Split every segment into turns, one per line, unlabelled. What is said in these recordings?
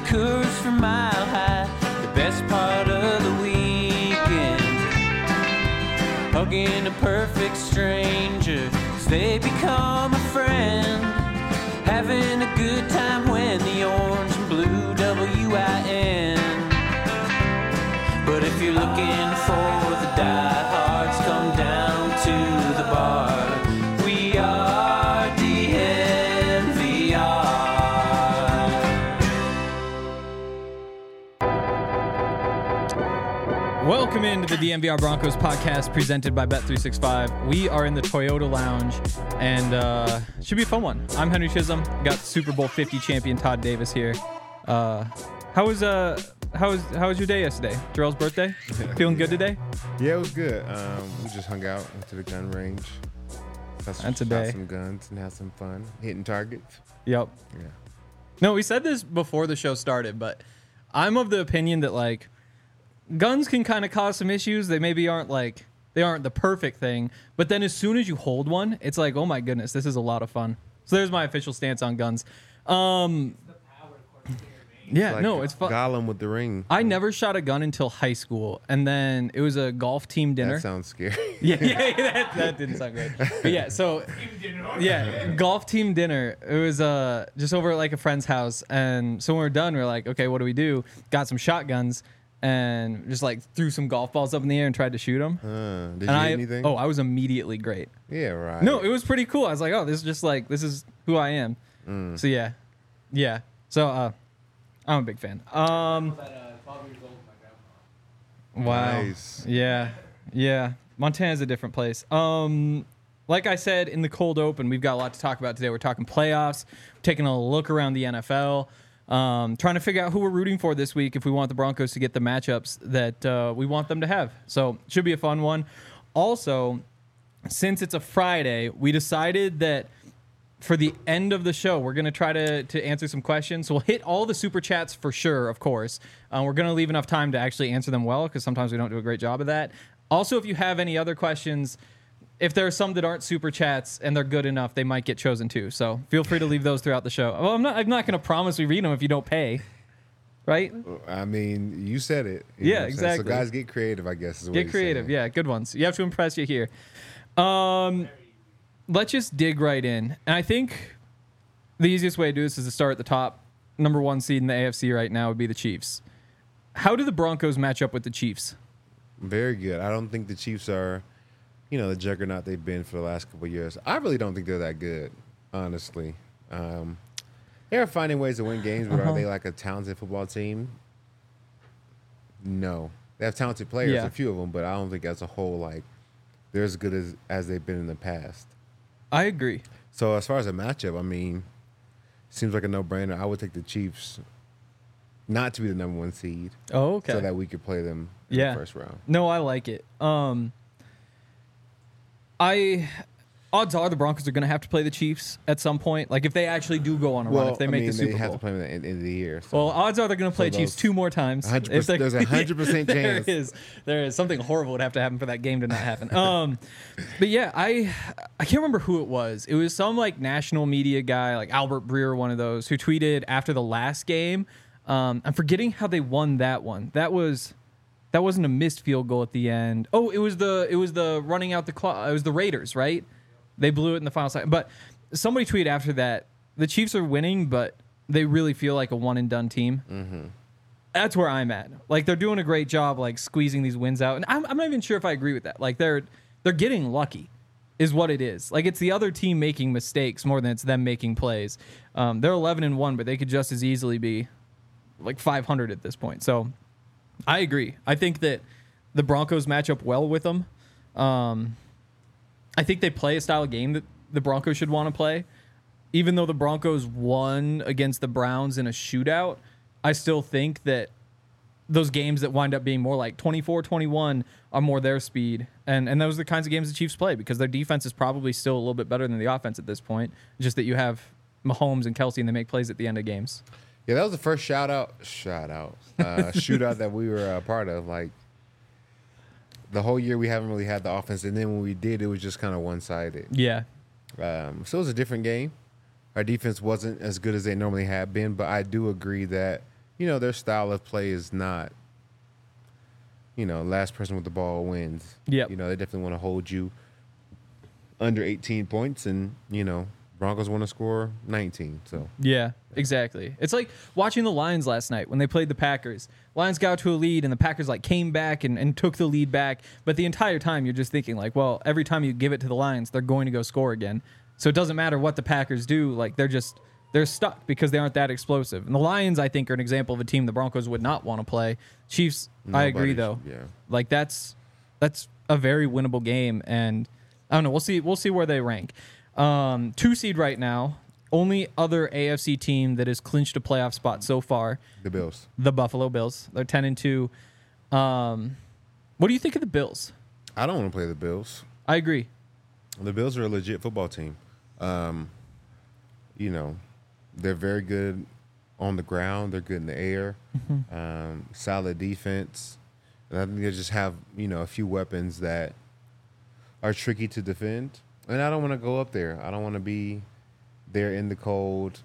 Coors from Mile High, the best part of the weekend. Hugging a perfect stranger as they become a friend. Having a good time when the orange and blue WIN. But if you're looking for the diehards, come down to the bar. We are DNVR.
Welcome into the DNVR Broncos podcast presented by Bet365. We are in the Toyota Lounge, and should be a fun one. I'm Henry Chisholm. Got Super Bowl 50 champion Todd Davis here. How was your day yesterday? Jarrell's birthday? Feeling good today?
Yeah, it was good. We just hung out, went to the gun range.
That's a day.
Shot some guns and had some fun hitting targets.
Yep.
Yeah.
No, we said this before the show started, but I'm of the opinion that like guns can kind of cause some issues. They maybe aren't the perfect thing, but then as soon as you hold one, it's like, oh my goodness, this is a lot of fun. So there's my official stance on guns. Yeah,
Like
no, it's fun.
Gollum with the ring.
I never shot a gun until high school, and then it was a golf team dinner.
That sounds scary.
Yeah, that didn't sound great. But yeah, so golf team dinner. It was just over at like a friend's house, and so when we were done, we were like, okay, what do we do? Got some shotguns and just like threw some golf balls up in the air and tried to shoot them.
Did you hit anything?
Oh, I was immediately great.
Yeah, right.
No, it was pretty cool. I was like, oh, this is who I am. So yeah. So I'm a big fan. Wow.
Nice.
Yeah. Montana's a different place. Like I said in the cold open, we've got a lot to talk about today. We're talking playoffs, taking a look around the NFL, trying to figure out who we're rooting for this week if we want the Broncos to get the matchups that we want them to have. So it should be a fun one. Also, since it's a Friday, we decided that for the end of the show, we're going to try to answer some questions. So we'll hit all the super chats for sure, of course. We're going to leave enough time to actually answer them well because sometimes we don't do a great job of that. Also, if you have any other questions, if there are some that aren't super chats and they're good enough, they might get chosen too. So feel free to leave those throughout the show. Well, I'm not going to promise we read them if you don't pay, right?
I mean, you said it.
Yeah, exactly.
So guys, get creative, I guess. Is what
Get creative.
saying.
Yeah, good ones. You have to impress you here. Let's just dig right in. And I think the easiest way to do this is to start at the top. Number one seed in the AFC right now would be the Chiefs. How do the Broncos match up with the Chiefs?
Very good. I don't think the Chiefs are, the juggernaut they've been for the last couple of years. I really don't think they're that good, honestly. They're finding ways to win games, but are they like a talented football team? No. They have talented players, a few of them, but I don't think as a whole, like, they're as good as they've been in the past.
I agree.
So as far as a matchup, I mean, seems like a no-brainer. I would take the Chiefs not to be the number one seed.
Oh, okay.
So that we could play them in the first round.
No, I like it. Odds are the Broncos are going to have to play the Chiefs at some point. Like if they actually do go on a run, if they make the Super Bowl.
They have to play them at the end of the year.
So. Well, odds are they're going to play Chiefs two more times.
100%, there's a 100% chance.
There is something horrible would have to happen for that game to not happen. But yeah, I can't remember who it was. It was some like national media guy, like Albert Breer, one of those, who tweeted after the last game. I'm forgetting how they won that one. That wasn't a missed field goal at the end. Oh, it was the running out the clock. It was the Raiders, right? They blew it in the final second. But somebody tweeted after that, the Chiefs are winning, but they really feel like a one-and-done team. Mm-hmm. That's where I'm at. Like, they're doing a great job, like, squeezing these wins out. And I'm not even sure if I agree with that. Like, they're getting lucky is what it is. Like, it's the other team making mistakes more than it's them making plays. They're 11-1, but they could just as easily be, like, 500 at this point. So I agree. I think that the Broncos match up well with them. I think they play a style of game that the Broncos should want to play. Even though the Broncos won against the Browns in a shootout, I still think that those games that wind up being more like 24-21 are more their speed. And those are the kinds of games the Chiefs play because their defense is probably still a little bit better than the offense at this point. Just that you have Mahomes and Kelsey and they make plays at the end of games.
Yeah, that was the first shootout that we were a part of. Like, the whole year we haven't really had the offense, and then when we did, it was just kind of one-sided.
Yeah.
So it was a different game. Our defense wasn't as good as they normally have been, but I do agree that their style of play is not, last person with the ball wins.
Yep.
They definitely want to hold you under 18 points, and, Broncos want to score 19. So
Yeah, exactly. It's like watching the Lions last night when they played the Packers. Lions got to a lead, and the Packers came back and took the lead back. But the entire time, you're just thinking well, every time you give it to the Lions, they're going to go score again. So it doesn't matter what the Packers do. They're stuck because they aren't that explosive. And the Lions, I think, are an example of a team the Broncos would not want to play. Chiefs, I agree though.
Yeah.
That's a very winnable game, and I don't know. We'll see where they rank. 2 seed right now. Only other AFC team that has clinched a playoff spot so far.
The Bills.
The Buffalo Bills. They're 10-2. What do you think of the Bills?
I don't want to play the Bills.
I agree.
The Bills are a legit football team. They're very good on the ground. They're good in the air. Solid defense. And I think they just have, a few weapons that are tricky to defend. And I don't want to go up there. I don't want to be there in the cold,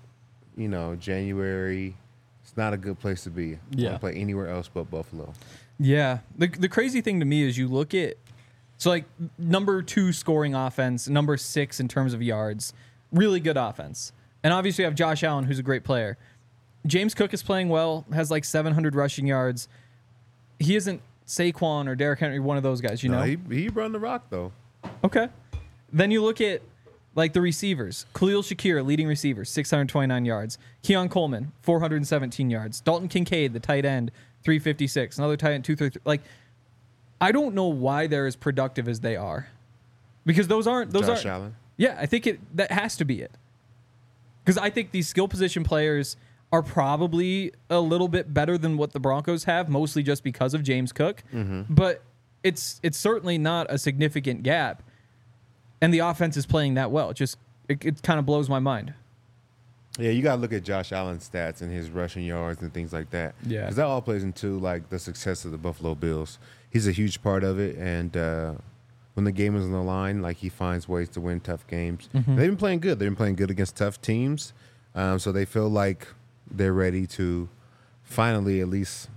January. It's not a good place to be. I want to play anywhere else but Buffalo.
Yeah. The crazy thing to me is you look at, number 2 scoring offense, number 6 in terms of yards, really good offense. And obviously you have Josh Allen, who's a great player. James Cook is playing well, has 700 rushing yards. He isn't Saquon or Derrick Henry, one of those guys,
No, he run the rock, though.
Okay. Then you look at the receivers. Khalil Shakir, leading receiver, 629 yards. Keon Coleman, 417 yards. Dalton Kincaid, the tight end, 356. Another tight end, 233. I don't know why they're as productive as they are, because those aren't
Josh Allen.
Yeah, I think that has to be it. Because I think these skill position players are probably a little bit better than what the Broncos have, mostly just because of James Cook. But it's certainly not a significant gap. And the offense is playing that well. It kind of blows my mind.
Yeah, you got to look at Josh Allen's stats and his rushing yards and things like that.
Yeah.
Because that all plays into, the success of the Buffalo Bills. He's a huge part of it. And when the game is on the line, he finds ways to win tough games. They've been playing good. They've been playing good against tough teams. So they feel like they're ready to finally at least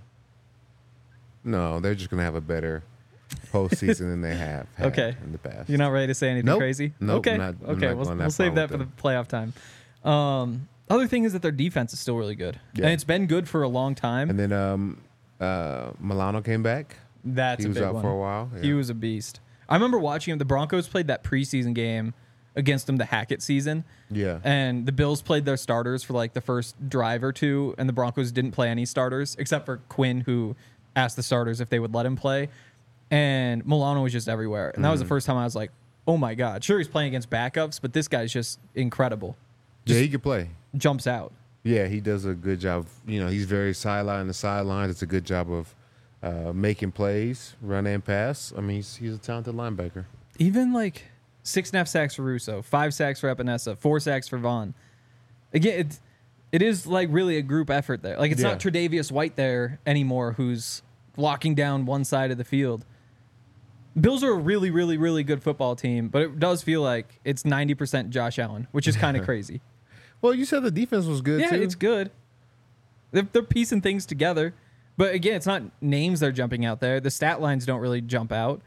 – no, they're just going to have a better – postseason than they have had in the past.
You're not ready to say anything crazy?
Nope.
Okay.
I'm not
We'll save that for the playoff time. Other thing is that their defense is still really good.
Yeah.
And it's been good for a long time.
And then Milano came back.
That's
he
a
was
big
out
one.
for a while. Yeah.
He was a beast. I remember watching him. The Broncos played that preseason game against them, the Hackett season.
Yeah.
And the Bills played their starters for the first drive or two, and the Broncos didn't play any starters except for Quinn, who asked the starters if they would let him play. And Milano was just everywhere. And that was the first time I was like, oh, my God. Sure, he's playing against backups, but this guy's just incredible.
Yeah, he can play.
Jumps out.
Yeah, he does a good job. He's very sideline to sideline. It's a good job of making plays, run and pass. I mean, he's a talented linebacker.
Even 6.5 sacks for Russo, 5 sacks for Epinesa, 4 sacks for Vaughn. Again, it is really a group effort there. It's not Tre'Davious White there anymore who's locking down one side of the field. Bills are a really, really, really good football team, but it does feel like it's 90% Josh Allen, which is kind of crazy.
Well, you said the defense was good, too.
Yeah, it's good. They're piecing things together. But again, it's not names they're jumping out there. The stat lines don't really jump out.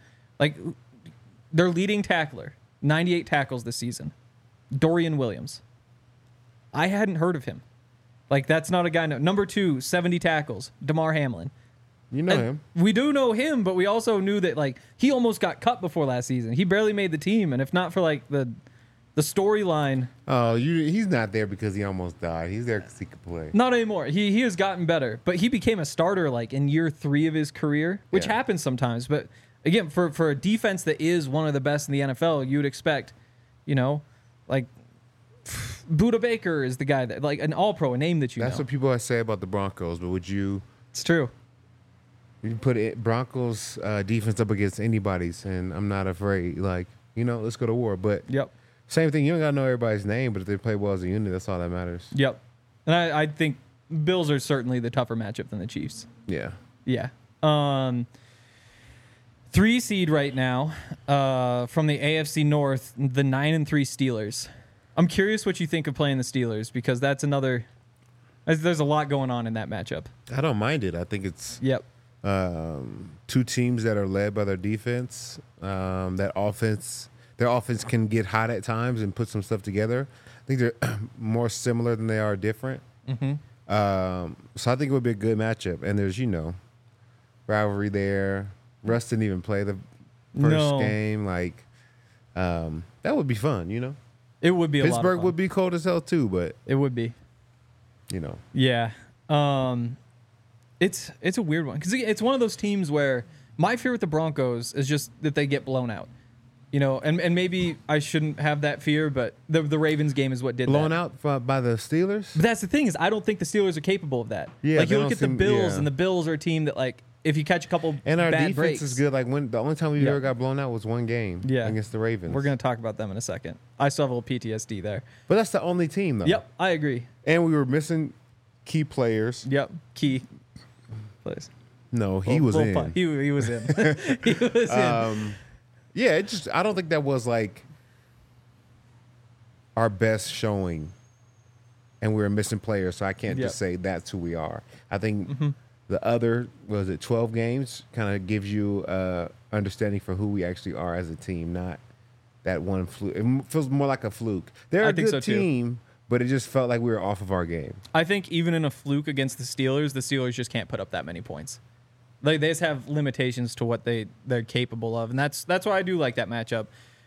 Their leading tackler, 98 tackles this season, Dorian Williams. I hadn't heard of him. That's not a guy. Number 2, 70 tackles, Damar Hamlin.
You know him.
We do know him, but we also knew that he almost got cut before last season. He barely made the team, and if not for the storyline.
Oh, he's not there because he almost died. He's there because he could play.
Not anymore. He has gotten better, but he became a starter in year 3 of his career, which happens sometimes. But again, for a defense that is one of the best in the NFL, you would expect, Buda Baker is the guy that an All-Pro, a name that you know.
That's what people say about the Broncos, but would you?
It's true.
You put Broncos defense up against anybody's, and I'm not afraid. Let's go to war. But
Yep.
Same thing. You don't got to know everybody's name, but if they play well as a unit, that's all that matters.
Yep. And I think Bills are certainly the tougher matchup than the Chiefs.
Yeah.
Yeah. 3 seed right now from the AFC North, the 9-3 Steelers. I'm curious what you think of playing the Steelers, because that's another There's a lot going on in that matchup.
I don't mind it. I think it's
Yep.
two teams that are led by their defense. Their offense can get hot at times and put some stuff together. I think they're more similar than they are different.
Mm-hmm.
So I think it would be a good matchup. And there's rivalry there. Russ didn't even play the first game. Like that would be fun.
It would be a lot of
Pittsburgh
fun.
would be cold as hell too, but
It would be.
Yeah.
It's a weird one because it's one of those teams where my fear with the Broncos is just that they get blown out. And maybe I shouldn't have that fear, but the Ravens game is what did
blown
that.
out by the Steelers.
But that's the thing is I don't think the Steelers are capable of that.
Yeah,
like you
they
look
don't
at the
seem-
Bills,
yeah.
and the Bills are a team that like if you catch a couple
And our
bad
defense
breaks,
is good. Like the only time we
Yeah.
ever got blown out was one game against the Ravens.
We're gonna talk about them in a second. I still have a little PTSD there.
But that's the only team though.
Yep, I agree.
And we were missing key players.
Yep, key. Please.
No, he was in.
He was in. He was in.
Yeah, I don't think that was like our best showing, and we were missing players, so I can't
Yep.
just say that's who we are. I think the other 12 games kind of gives you understanding for who we actually are as a team, not that one fluke. It feels more like a fluke. They're
I
a
think
good
so, too.
team, but it just felt like we were off of our game.
I think even in a fluke against the Steelers just can't put up that many points. They just have limitations to what they're capable of, and that's why I do like that matchup.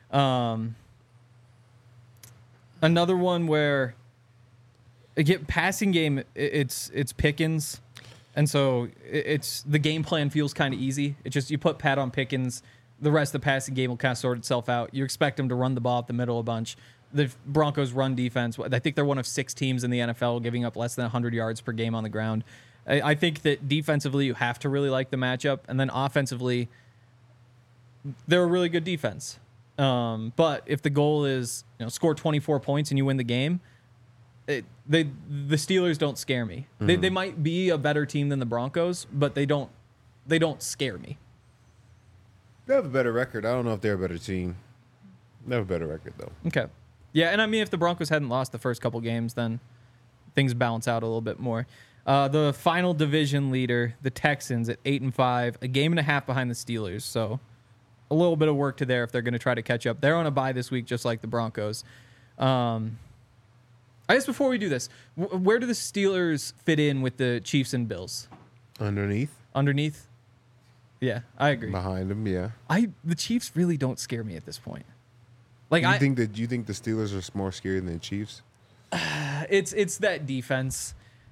Another one where passing game, it's Pickens, and so it's the game plan feels kind of easy. It's just you put Pat on Pickens, the rest of the passing game will kind of sort itself out. You expect him to run the ball up the middle a bunch. The Broncos run defense, I think they're one of 6 teams in the NFL giving up less than 100 yards per game on the ground. I think that defensively you have to really like the matchup, and then offensively they're a really good defense. But if the goal is score 24 points and you win the game, the Steelers don't scare me. They might be a better team than the Broncos, but they don't scare me.
They have a better record. I don't know if they're a better team. They have a better record though.
Okay. Yeah, and I mean if the Broncos hadn't lost the first couple games, then things balance out a little bit more. The final division leader, the Texans at 8-5, a game and a half behind the Steelers. So a little bit of work to there if they're going to try to catch up. They're on a bye this week, just like the Broncos. I guess before we do this, where do the Steelers fit in with the Chiefs and Bills?
Underneath,
Yeah, I agree.
behind them, yeah.
The Chiefs really don't scare me at this point. Like
You think the Steelers are more scary than the Chiefs?
it's that defense.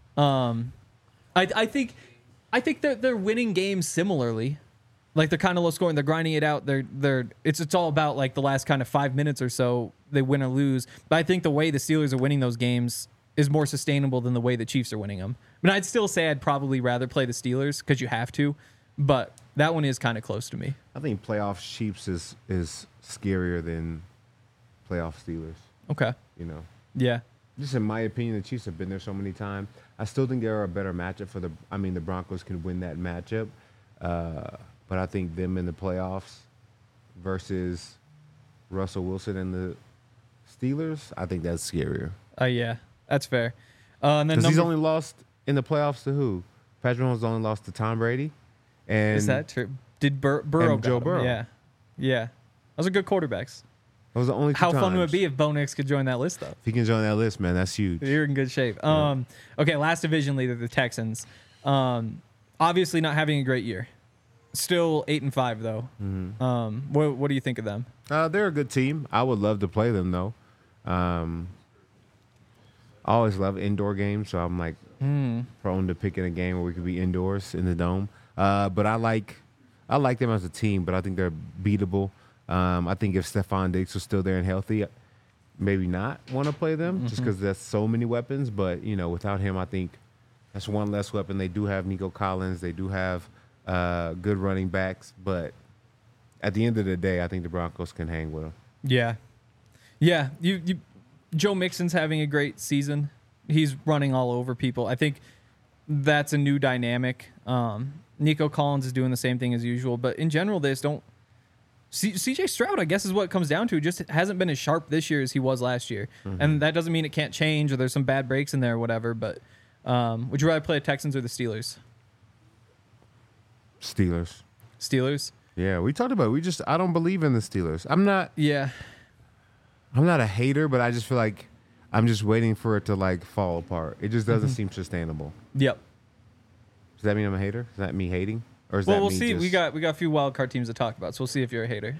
I think that they're winning games similarly. Like they're kind of low scoring. They're grinding it out. It's all about like the last kind of 5 minutes or so they win or lose. But I think the way the Steelers are winning those games is more sustainable than the way the Chiefs are winning them. I mean, I'd still say I'd probably rather play the Steelers because you have to, but that one is kind of close to me.
I think playoff Chiefs is scarier than playoff Steelers.
Okay. Yeah.
Just in my opinion, the Chiefs have been there so many times. I still think they're a better matchup for the Broncos can win that matchup. But I think them in the playoffs versus Russell Wilson and the Steelers, I think that's scarier.
Yeah, that's fair. And then
Because he's only lost in the playoffs to who? Patrick Mahomes only lost to Tom Brady. And
is that true? Did Burrow
and Joe
got him?
Burrow.
Yeah. Those are good quarterbacks.
those are the only two
How fun would it
times.
be if Bo Nix could join that list, though?
If he can join that list, man, that's huge.
You're in good shape. Okay, last division leader, the Texans. Obviously not having a great year. Still 8-5 though.
Mm-hmm.
What do you think of them?
They're a good team. I would love to play them though. I always love indoor games, so I'm like prone to picking a game where we could be indoors in the dome. But I like them as a team, but I think they're beatable. I think if Stephon Diggs was still there and healthy, maybe not want to play them just because there's so many weapons. But without him, I think that's one less weapon. They do have Nico Collins. They do have good running backs, but at the end of the day, I think the Broncos can hang with them.
Yeah. Joe Mixon's having a great season. He's running all over people. I think that's a new dynamic. Nico Collins is doing the same thing as usual, but in general, they just don't. CJ Stroud, I guess, is what it comes down to. Just hasn't been as sharp this year as he was last year, and that doesn't mean it can't change or there's some bad breaks in there or whatever. But Would you rather play the Texans or the Steelers?
Steelers.
Steelers?
Yeah, we talked about it. I don't believe in the Steelers.
Yeah.
I'm not a hater, but I just feel like I'm just waiting for it to like fall apart. It just doesn't seem sustainable.
Yep.
Does that mean I'm a hater? Is that me hating? Or is
Well,
that
we'll
me
see.
just...
We got a few wild card teams to talk about, so we'll see if you're a hater.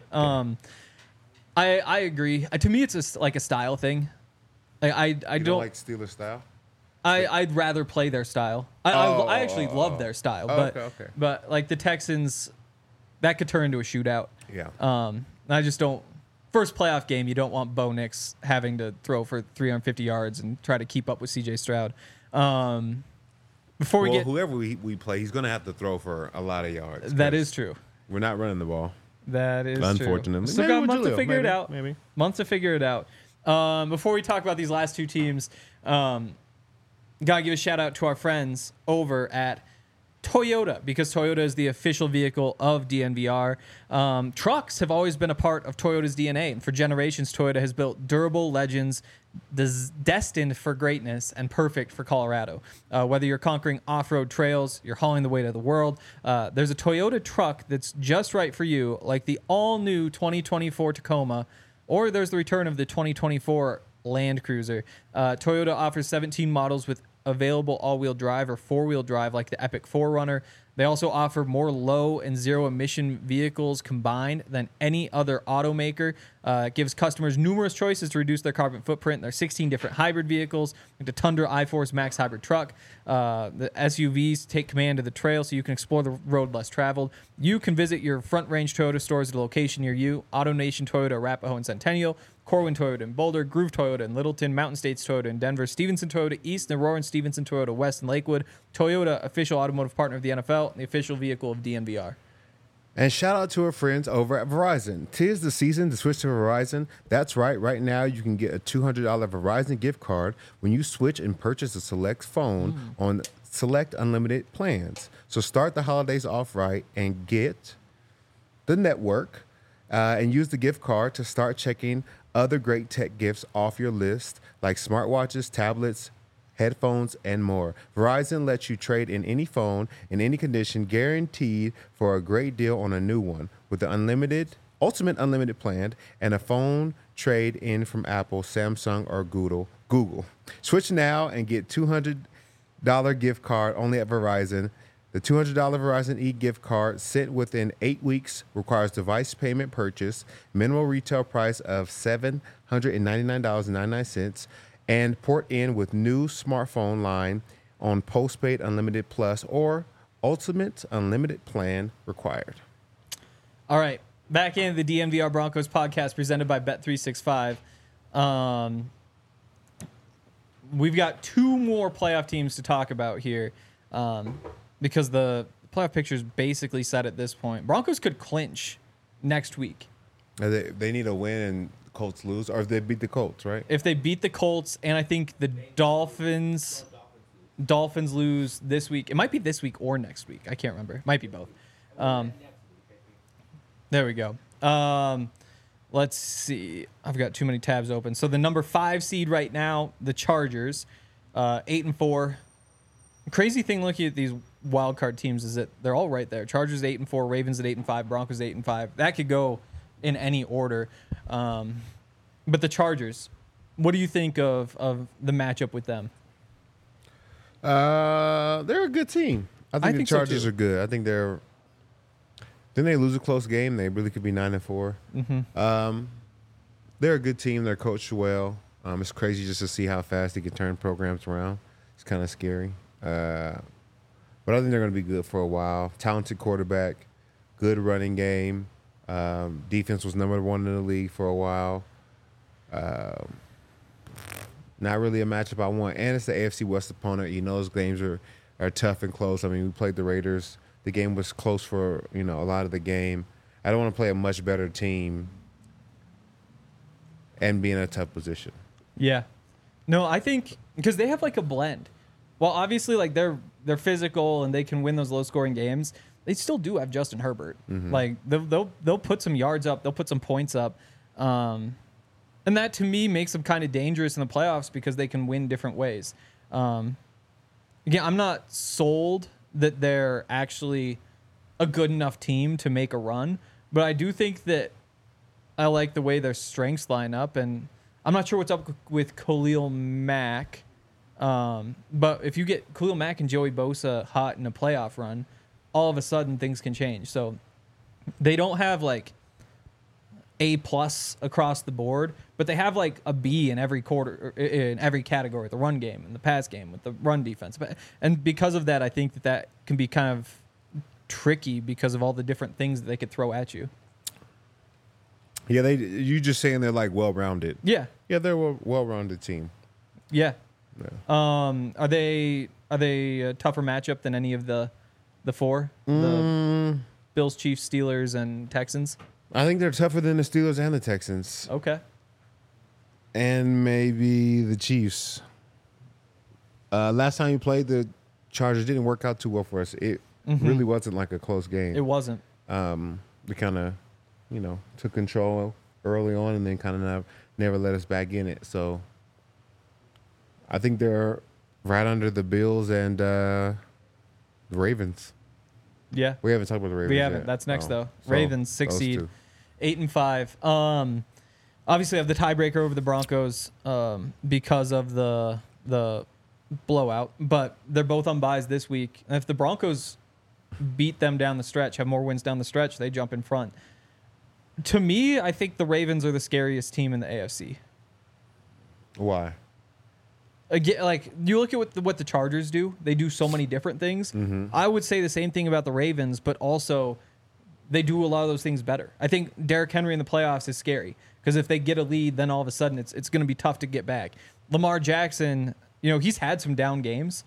I agree. To me, it's like a style thing. Like I
You
don't
like Steelers style?
I'd rather play their style. I actually love their style, but
okay.
but like the Texans, that could turn into a shootout.
Yeah.
I just don't. First playoff game, you don't want Bo Nix having to throw for 350 yards and try to keep up with C.J. Stroud. Before we get
whoever we play, he's going to have to throw for a lot of yards.
that is true.
We're not running the ball.
That is
Unfortunately.
true. Still
Maybe
got a
with
month to
Julio.
figure it out.
Maybe.
Months to figure it out. Before we talk about these last two teams, gotta give a shout out to our friends over at Toyota, because Toyota is the official vehicle of DNVR. Trucks have always been a part of Toyota's DNA, and for generations, Toyota has built durable legends destined for greatness and perfect for Colorado. Whether you're conquering off-road trails, you're hauling the weight of the world, there's a Toyota truck that's just right for you, like the all-new 2024 Tacoma, or there's the return of the 2024 Land Cruiser. Toyota offers 17 models with available all-wheel drive or four-wheel drive like the Epic 4Runner. They also offer more low and zero emission vehicles combined than any other automaker. It gives customers numerous choices to reduce their carbon footprint. There are 16 different hybrid vehicles, like the Tundra iForce Max hybrid truck. The SUVs take command of the trail so you can explore the road less traveled. You can visit your Front Range Toyota stores at a location near you. AutoNation Toyota, Arapahoe and Centennial. Corwin Toyota in Boulder, Groove Toyota in Littleton, Mountain States Toyota in Denver, Stevenson Toyota East, and Aurora and Stevenson Toyota West in Lakewood. Toyota, official automotive partner of the NFL, and the official vehicle of DNVR.
And shout out to our friends over at Verizon. 'Tis the season to switch to Verizon. That's right. Right now, you can get a $200 Verizon gift card when you switch and purchase a select phone on select unlimited plans. So start the holidays off right and get the network and use the gift card to start checking other great tech gifts off your list, like smartwatches, tablets, headphones, and more. Verizon lets you trade in any phone in any condition, guaranteed for a great deal on a new one with the ultimate unlimited plan and a phone trade in from Apple, Samsung, or Google. Switch now and get $200 gift card only at Verizon. The $200 Verizon e-gift card sent within 8 weeks requires device payment purchase, minimum retail price of $799.99, and port in with new smartphone line on postpaid unlimited plus or ultimate unlimited plan required.
All right, back in the DNVR Broncos podcast presented by Bet365. We've got two more playoff teams to talk about here. Because the playoff picture is basically set at this point. Broncos could clinch next week.
They need a win and the Colts lose, or if they beat the Colts, right?
If they beat the Colts, and I think the Dolphins lose this week. It might be this week or next week. I can't remember. It might be both. There we go. Let's see. I've got too many tabs open. So the number 5 seed right now, the Chargers, 8-4. Crazy thing looking at these wild card teams is that they're all right there. Chargers 8-4, Ravens at 8-5, Broncos 8-5. That could go in any order. But the Chargers, what do you think of the matchup with them?
They're a good team. I think the
so,
Chargers
too.
are good. I think they're. Didn't they lose a close game? They really could be 9-4.
Mm-hmm.
They're a good team. They're coached well. It's crazy just to see how fast they can turn programs around. It's kind of scary. But I think they're going to be good for a while. Talented quarterback, good running game. Defense was number 1 in the league for a while. Not really a matchup I want. And it's the AFC West opponent. You know those games are tough and close. I mean, we played the Raiders. The game was close for, a lot of the game. I don't want to play a much better team and be in a tough position.
Yeah. No, I think because they have like a blend. Well, obviously, like they're physical and they can win those low-scoring games. They still do have Justin Herbert.
Mm-hmm.
Like they'll put some yards up, they'll put some points up, and that to me makes them kind of dangerous in the playoffs because they can win different ways. again, I'm not sold that they're actually a good enough team to make a run, but I do think that I like the way their strengths line up, and I'm not sure what's up with Khalil Mack. But if you get Khalil Mack and Joey Bosa hot in a playoff run, all of a sudden things can change. So they don't have like A+ across the board, but they have like a B in every quarter, in every category, the run game and the pass game with the run defense. And because of that, I think that can be kind of tricky because of all the different things that they could throw at you.
Yeah, you just saying they're like well-rounded.
Yeah.
Yeah, they're a well-rounded team.
Yeah.
Yeah.
Are they a tougher matchup than any of the four? The Bills, Chiefs, Steelers, and Texans?
I think they're tougher than the Steelers and the Texans.
Okay.
And maybe the Chiefs. Last time you played, the Chargers didn't work out too well for us. It really wasn't like a close game.
It wasn't.
We kind of, took control early on and then kind of never let us back in it. So I think they're right under the Bills and the Ravens.
Yeah.
We haven't talked about the Ravens
We haven't.
yet.
That's next, though.
So,
Ravens, 6
those
seed,
two.
8-5. Obviously, have the tiebreaker over the Broncos because of the blowout, but they're both on byes this week. And if the Broncos beat them down the stretch, have more wins down the stretch, they jump in front. To me, I think the Ravens are the scariest team in the AFC.
Why?
Again, like you look at what the Chargers do, they do so many different things. I would say the same thing about the Ravens, but also they do a lot of those things better. I think Derrick Henry in the playoffs is scary because if they get a lead, then all of a sudden it's going to be tough to get back. Lamar Jackson, he's had some down games.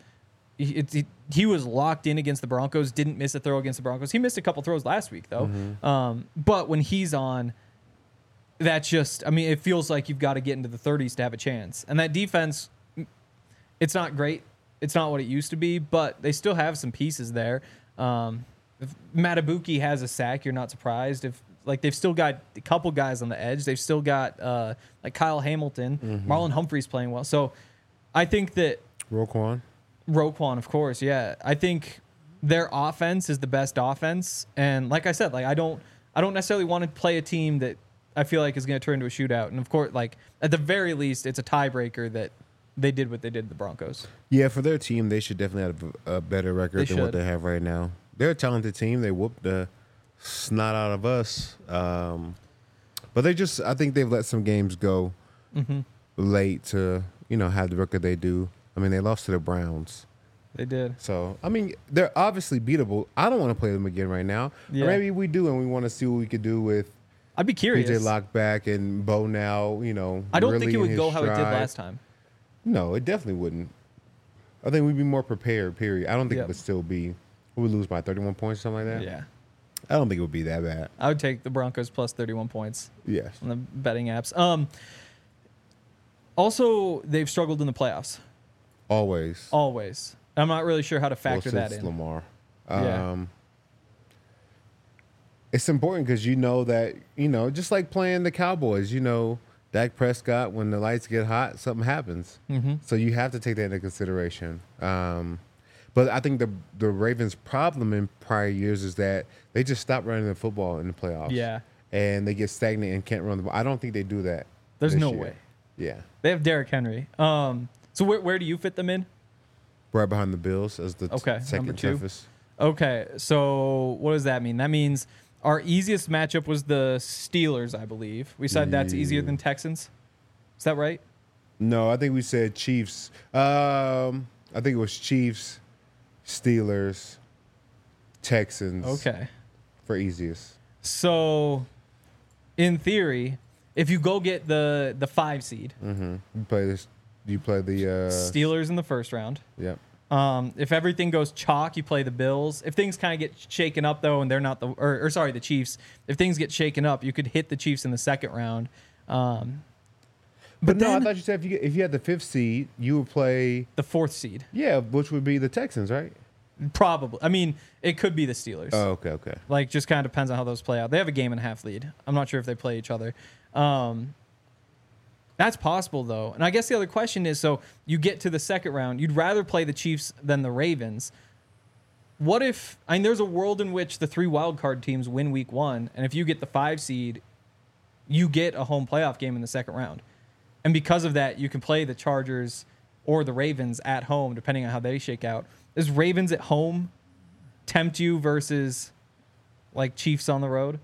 He was locked in against the Broncos, didn't miss a throw against the Broncos. He missed a couple throws last week, though. But when he's on, that's just, it feels like you've got to get into the 30s to have a chance. And that defense, it's not great. It's not what it used to be, but they still have some pieces there. If Matabuki has a sack, you're not surprised. If they've still got a couple guys on the edge, they've still got like Kyle Hamilton, Marlon Humphrey's playing well. So I think that Roquan, of course, yeah. I think their offense is the best offense, and like I said, I don't necessarily want to play a team that I feel like is going to turn into a shootout. And of course, at the very least, it's a tiebreaker that they did what they did to the Broncos.
Yeah, for their team, they should definitely have a better record than what they have right now. They're a talented team. They whooped the snot out of us, but I think they've let some games go late to have the record they do. They lost to the Browns.
They did.
So, they're obviously beatable. I don't want to play them again right now.
Yeah.
Or maybe we do, and we want to see what we could do with
I'd be curious.
PJ Lockback and Bo now,
I don't
really
think it would
in
go
his
how it did
stride.
last time.
No, it definitely wouldn't. I think we'd be more prepared, period. I don't think it would still be, we would lose by 31 points or something like that.
Yeah.
I don't think it would be that bad.
I would take the Broncos plus 31 points
Yes.
on the betting apps. Also, they've struggled in the playoffs.
Always.
I'm not really sure how to factor that
since
in.
Lamar.
Yeah.
It's important because that, just like playing the Cowboys, Dak Prescott, when the lights get hot, something happens. So you have to take that into consideration. But I think the Ravens' problem in prior years is that they just stop running the football in the playoffs.
Yeah.
And they get stagnant and can't run the ball. I don't think they do that.
There's
this
no
year.
way.
Yeah.
They have Derrick Henry. So where do you fit them in?
Right behind the Bills as the second
number 2.
toughest.
Okay, so what does that mean? That means our easiest matchup was the Steelers, I believe. We said that's easier than Texans. Is that right?
No, I think we said Chiefs. I think it was Chiefs, Steelers, Texans.
Okay.
For easiest.
So, in theory, if you go get the 5 seed,
You play the
Steelers in the first round.
Yep.
If everything goes chalk, you play the Bills. If things kind of get shaken up though, and they're not the Chiefs. If things get shaken up, you could hit the Chiefs in the second round.
But no, I thought you said if you had the 5th seed, you would play
the 4th seed.
Yeah, which would be the Texans, right?
Probably. It could be the Steelers.
Oh, okay.
Just kind of depends on how those play out. They have a 1.5 game lead. I'm not sure if they play each other. That's possible, though. And I guess the other question is, so you get to the second round, you'd rather play the Chiefs than the Ravens. What if, I mean, there's a world in which the 3 wildcard teams win week 1, and if you get the 5 seed, you get a home playoff game in the second round. And because of that, you can play the Chargers or the Ravens at home, depending on how they shake out. Does Ravens at home tempt you versus, like, Chiefs on the road?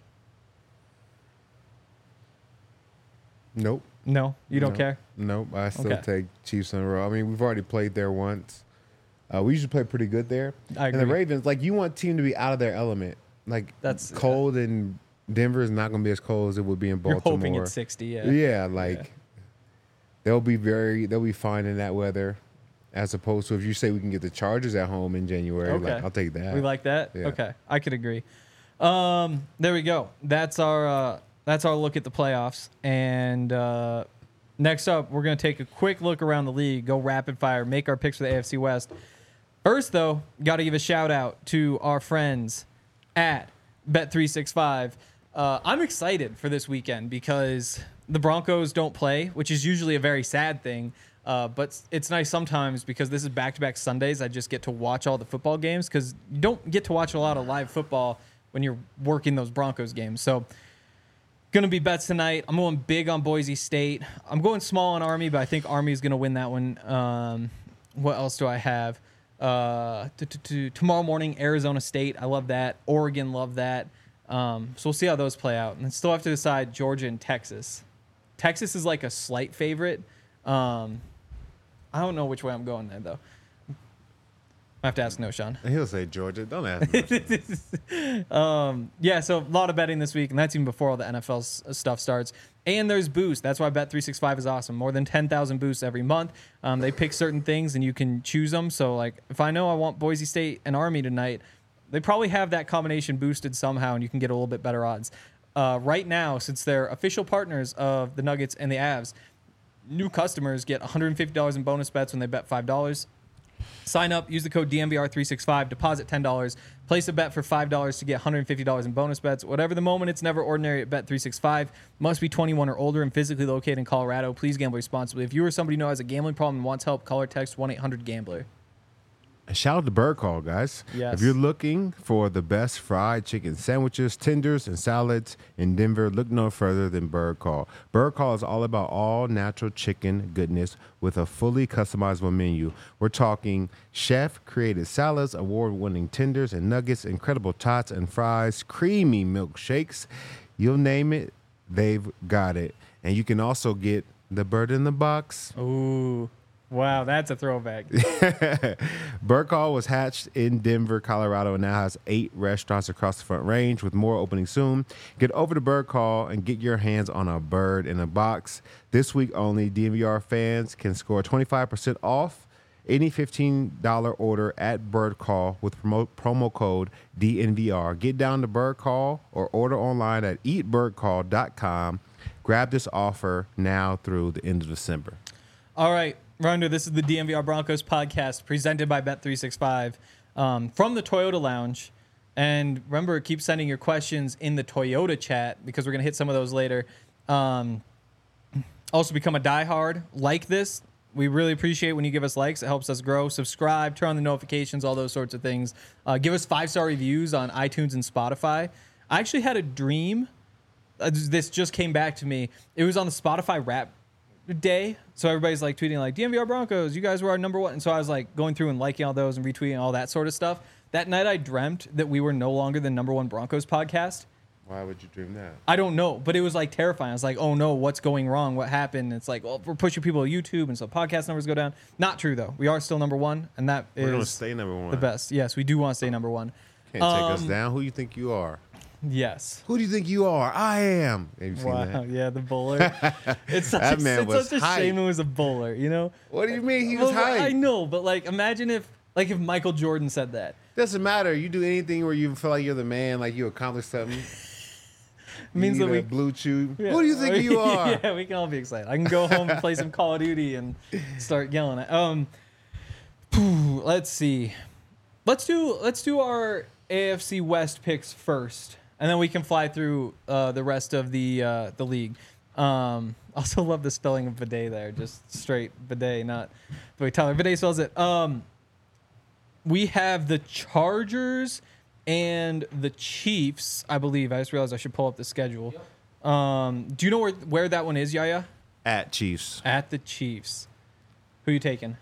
Nope.
No? You don't care?
Nope. I still
Okay.
take Chiefs on the road. I mean, we've already played there once. We usually play pretty good there.
I
And the
agree.
Ravens, like, you want a team to be out of their element. Like,
That's-
cold in Denver is not going to be as cold as it would be in
You're
Baltimore.
hoping it's 60, yeah.
Yeah, like they'll be fine in that weather, as opposed to if you say we can get the Chargers at home in January.
Okay.
Like, I'll take that.
We like that?
Yeah.
Okay. I could agree. There we go. That's our look at the playoffs. And next up, we're going to take a quick look around the league, go rapid fire, make our picks for the AFC West. First, though, got to give a shout out to our friends at Bet365. I'm excited for this weekend because the Broncos don't play, which is usually a very sad thing. But it's nice sometimes because this is back-to-back Sundays. I just get to watch all the football games because you don't get to watch a lot of live football when you're working those Broncos games. So, going to be bets tonight. I'm going big on Boise State. I'm going small on Army, but I think Army is going to win that one. What else do I have? Tomorrow morning, Arizona State. I love that. Oregon, love that. So we'll see how those play out. And then still have to decide Georgia and Texas. Texas is like a slight favorite. I don't know which way I'm going there, though. I have to ask Sean.
He'll say Georgia. Don't ask me.
Yeah, so a lot of betting this week, and that's even before all the NFL stuff starts. And there's boost. That's why Bet365 is awesome. More than 10,000 boosts every month. They pick certain things, and you can choose them. So, like, if I know I want Boise State and Army tonight, they probably have that combination boosted somehow, and you can get a little bit better odds. Right now, since they're official partners of the Nuggets and the Avs, new customers get $150 in bonus bets when they bet $5. Sign up, use the code DNVR365, deposit $10, place a bet for $5 to get $150 in bonus bets. Whatever the moment, it's never ordinary at Bet365. Must be 21 or older and physically located in Colorado. Please gamble responsibly. If you or somebody you know has a gambling problem and wants help, call or text 1-800-GAMBLER.
Shout out to Bird Call, guys.
Yes.
If you're looking for the best fried chicken sandwiches, tenders, and salads in Denver, look no further than Bird Call. Bird Call is all about all natural chicken goodness with a fully customizable menu. We're talking chef-created salads, award-winning tenders and nuggets, incredible tots and fries, creamy milkshakes. You'll name it, they've got it. And you can also get the bird in the box.
Ooh. Wow, that's a throwback.
Bird Call was hatched in Denver, Colorado, and now has 8 restaurants across the Front Range with more opening soon. Get over to Bird Call and get your hands on a bird in a box. This week only, DNVR fans can score 25% off any $15 order at Bird Call with promo code DNVR. Get down to Bird Call or order online at eatbirdcall.com. Grab this offer now through the end of December.
All right, Rondo, this is the DNVR Broncos podcast presented by Bet365 from the Toyota Lounge. And remember, keep sending your questions in the Toyota chat because we're going to hit some of those later. Also, become a diehard. Like this. We really appreciate when you give us likes. It helps us grow. Subscribe, turn on the notifications, all those sorts of things. Give us 5-star reviews on iTunes and Spotify. I actually had a dream. This just came back to me. It was on the Spotify Rap Day. So everybody's like tweeting like, DNVR Broncos, you guys were our number one. And so I was like going through and liking all those and retweeting all that sort of stuff. That night I dreamt that we were no longer the number one Broncos podcast.
Why would you dream that?
I don't know, but it was like terrifying. I was like, oh no, what's going wrong? What happened? It's like, well, we're pushing people to YouTube, and so podcast numbers go down. Not true, though. We are still number one, and that
We're going to
is
stay number one.
the best. Yes, we do want to stay number one.
Can't take us down. Who you think you are?
Yes.
Who do you think you are? I am. Have you seen
Wow.
that?
Yeah, the bowler. It's such
That
a,
man
it's
was
such a
hype.
shame it was a bowler, you know?
What do you mean he was
Well,
hype?
I know, but like, imagine if Michael Jordan said that.
Doesn't matter. You do anything where you feel like you're the man, like you accomplished something.
Means
you
that
need
we
a blue chew.
Yeah.
Who do you think you are?
Yeah, we can all be excited. I can go home and play some Call of Duty and start yelling at. Let's see. Let's do our AFC West picks first, and then we can fly through the rest of the league. Also love the spelling of bidet there, just straight bidet, not the way Tyler Bidet spells it. We have the Chargers and the Chiefs, I believe. I just realized I should pull up the schedule. Do you know where that one is, Yaya?
At Chiefs.
At the Chiefs. Who you taking?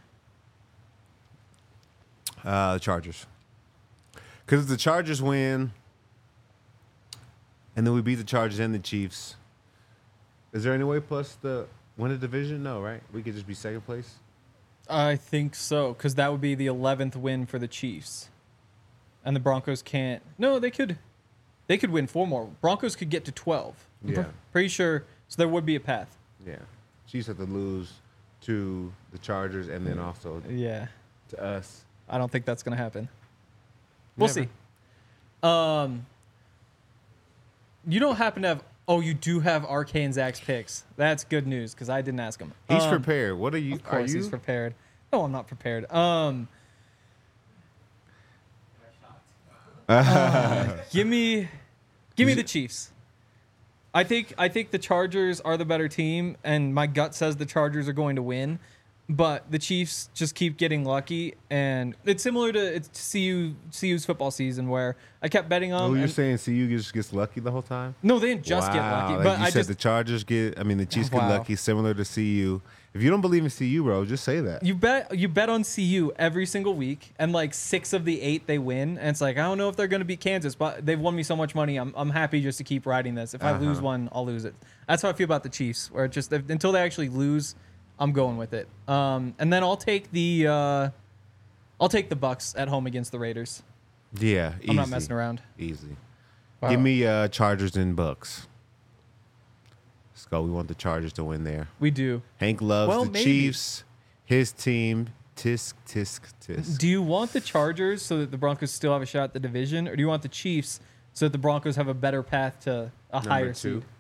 The Chargers. Because if the Chargers win, and then we beat the Chargers and the Chiefs, is there any way plus the win a division? No, right? We could just be second place.
I think so, because that would be the 11th win for the Chiefs. And the Broncos can't. No, they could. They could win 4 more. Broncos could get to 12.
Yeah.
Pretty sure. So there would be a path.
Yeah. Chiefs have to lose to the Chargers and then also
Yeah.
to us.
I don't think that's going to happen. We'll
Never.
see. You don't happen to have. Oh, you do have RK and Zach's picks. That's good news because I didn't ask him.
He's prepared. What are you?
Of course,
are you?
he's prepared. No, I'm not prepared. Give me the Chiefs. I think the Chargers are the better team, and my gut says the Chargers are going to win. But the Chiefs just keep getting lucky, and it's similar to CU's football season where I kept betting on.
Oh, you're saying CU just gets lucky the whole time?
No, they didn't just get lucky.
Like
But
you
I
said
just
the Chargers get. I mean, the Chiefs get
Wow.
lucky, similar to CU. If you don't believe in CU, bro, just say that.
you bet on CU every single week, and like 6 of the 8 they win, and it's like I don't know if they're going to beat Kansas, but they've won me so much money. I'm happy just to keep riding this. If I lose one, I'll lose it. That's how I feel about the Chiefs, where it just until they actually lose, I'm going with it. And then I'll take the Bucks at home against the Raiders.
Yeah, easy.
I'm not messing around.
Easy.
Wow.
Give me Chargers and Bucks. Let's go. We want the Chargers to win there.
We do.
Hank loves
Well,
the
maybe.
Chiefs. His team. Tisk, tisk, tisk.
Do you want the Chargers so that the Broncos still have a shot at the division, or do you want the Chiefs so that the Broncos have a better path to a higher
2.
seed?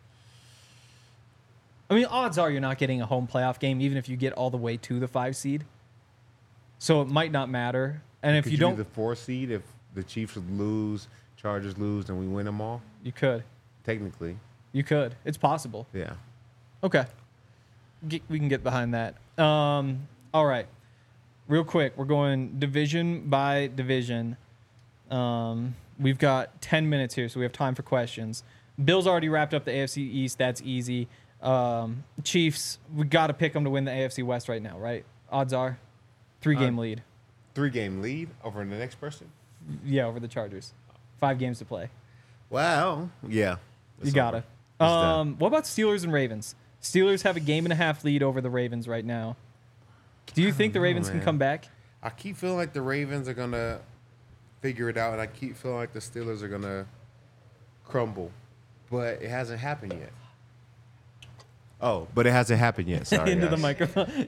I mean, odds are you're not getting a home playoff game, even if you get all the way to the 5 seed. So it might not matter. And if
Could
you
be
don't,
the 4 seed if the Chiefs would lose, Chargers lose, and we win them all.
you could.
Technically,
You could. It's possible.
yeah.
Okay. We can get behind that. All right. Real quick, we're going division by division. We've got 10 minutes here, so we have time for questions. Bill's already wrapped up the AFC East. That's easy. Chiefs, we got to pick them to win the AFC West right now, right? Odds are 3-game lead.
3-game lead over the next person.
Yeah, over the Chargers. 5 games to play.
Wow. Yeah.
You
It's
got
over.
to.
It's done.
What about Steelers and Ravens? Steelers have a 1.5 lead over the Ravens right now. Do you think the Ravens can
man.
come back?
I keep feeling like the Ravens are gonna figure it out, and I keep feeling like the Steelers are gonna crumble, but it hasn't happened yet. Oh, but it hasn't happened yet. Sorry,
Into the
guys.
microphone.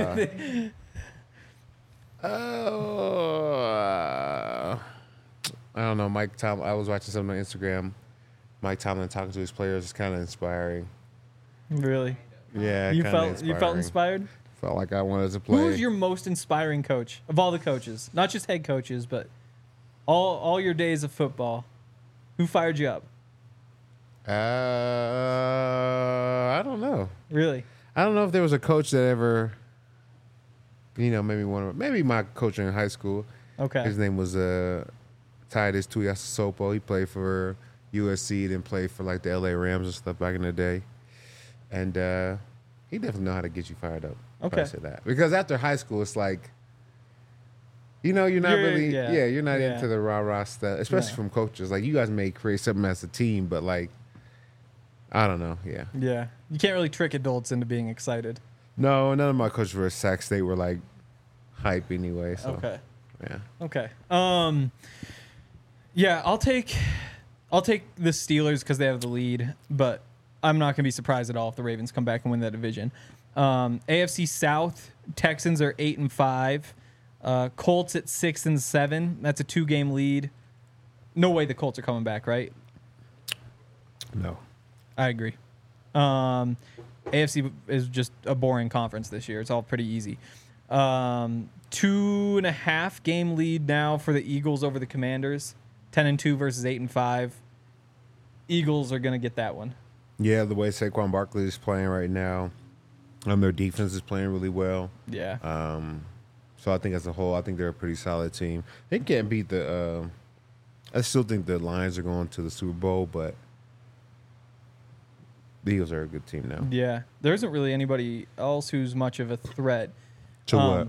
I don't know. Mike Tomlin. I was watching something on Instagram. Mike Tomlin talking to his players is kind of inspiring.
Really?
Yeah,
You
kinda
felt inspired?
Felt like I wanted to play.
Who was your most inspiring coach of all the coaches? Not just head coaches, but all your days of football. Who fired you up?
I don't know.
Really?
I don't know if there was a coach that ever, maybe my coach in high school.
Okay.
His name was Titus Tuiasosopo. He played for USC, then played for like the LA Rams and stuff back in the day. And he definitely know how to get you fired up. if I
Okay.
say that. Because after high school, it's like, you're not you're not
Yeah.
into the rah-rah stuff, especially
No.
from coaches. Like, you guys may create something as a team, but like, I don't know. Yeah.
Yeah. You can't really trick adults into being excited.
No, none of my coaches for Sac State were like hype anyway. So
Okay.
yeah.
Okay. Yeah, I'll take the Steelers because they have the lead, but I'm not gonna be surprised at all if the Ravens come back and win that division. AFC South, Texans are 8-5. Colts at 6-7. That's a 2-game lead. No way the Colts are coming back, right?
No.
I agree. AFC is just a boring conference this year. It's all pretty easy. 2.5 game lead now for the Eagles over the Commanders. 10-2 versus 8-5. Eagles are gonna get that one.
Yeah, the way Saquon Barkley is playing right now, their defense is playing really well.
Yeah.
So I think as a whole, I think they're a pretty solid team. They can't beat the. I still think the Lions are going to the Super Bowl, but the Eagles are a good team now.
Yeah. There isn't really anybody else who's much of a threat.
So what?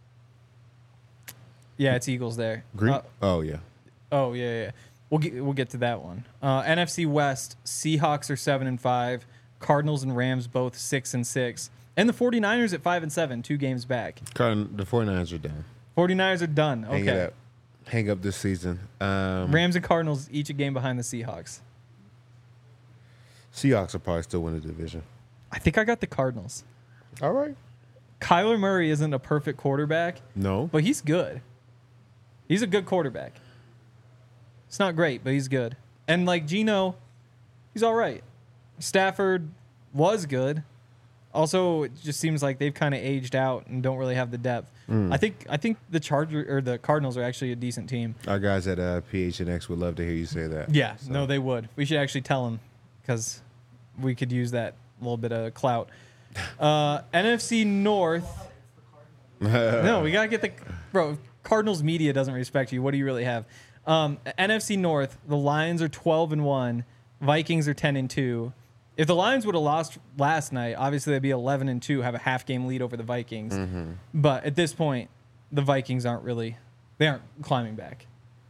Yeah, it's Eagles there.
Green? Oh yeah.
Oh yeah. We'll get to that one. NFC West, Seahawks are 7-5, Cardinals and Rams both 6-6, and the 49ers at 5-7, 2 games back.
The 49ers are done.
49ers are done. Okay.
Hang up this season.
Rams and Cardinals each a game behind the Seahawks.
Seahawks will probably still win the division.
I think I got the Cardinals.
All right.
Kyler Murray isn't a perfect quarterback.
No.
But he's good. He's a good quarterback. It's not great, but he's good. And like Geno, he's all right. Stafford was good. Also, it just seems like they've kind of aged out and don't really have the depth. I think the Cardinals are actually a decent team.
Our guys at PHNX would love to hear you say that.
Yeah, so. No, they would. We should actually tell them because we could use that little bit of clout. NFC North. No, we gotta get the bro. Cardinals media doesn't respect you. What do you really have? NFC North. The Lions are 12-1. Vikings are 10-2. If the Lions would have lost last night, obviously they'd be 11-2, have a half game lead over the Vikings. Mm-hmm. But at this point, the Vikings aren't climbing back.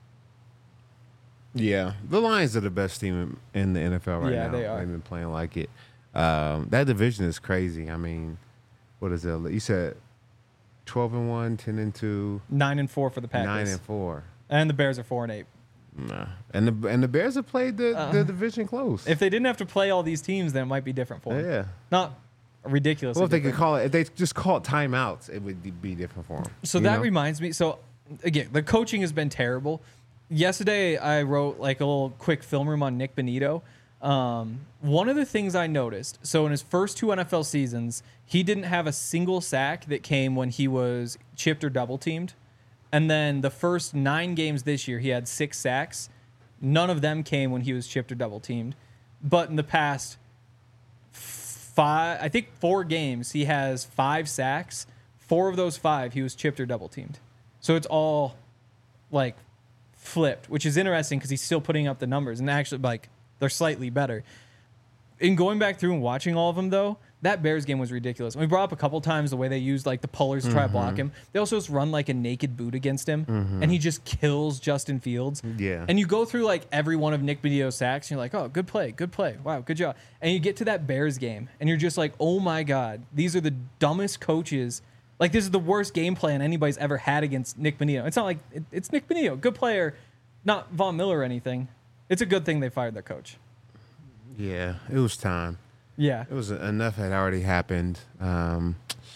Yeah, the Lions are the best team in the NFL right now.
Yeah, they are.
They've been playing like it. That division is crazy. I mean, what is it? You said 12-1, 10-2,
9-4 for the Packers.
9-4,
and the Bears are 4-8.
Nah. And the Bears have played the division close.
If they didn't have to play all these teams, then it might be different for them.
Yeah.
Not ridiculous.
Well, if they could call it, if they just call it timeouts, it would be different for them.
So that reminds me. So again, the coaching has been terrible. Yesterday, I wrote like a little quick film room on Nick Bonito. One of the things I noticed, so in his first 2 NFL seasons, he didn't have a single sack that came when he was chipped or double teamed. And then the first 9 games this year, he had 6 sacks. None of them came when he was chipped or double teamed. But in the past 4 games, he has 5 sacks. 4 of those 5, he was chipped or double teamed. So it's all like flipped, which is interesting because he's still putting up the numbers. And actually, like, they're slightly better. In going back through and watching all of them, though, that Bears game was ridiculous. We brought up a couple times the way they used like the pullers to try to block him. They also just run like a naked boot against him, and he just kills Justin Fields.
Yeah.
And you go through like every one of Nick Bonito's sacks, and you're like, oh, good play. Wow, good job. And you get to that Bears game, and you're just like, oh my God, these are the dumbest coaches. Like, this is the worst game plan anybody's ever had against Nick Bonito. It's not like it's Nick Bonito, good player, not Von Miller or anything. It's a good thing they fired their coach.
Yeah, it was time.
Yeah.
It was enough had already happened. I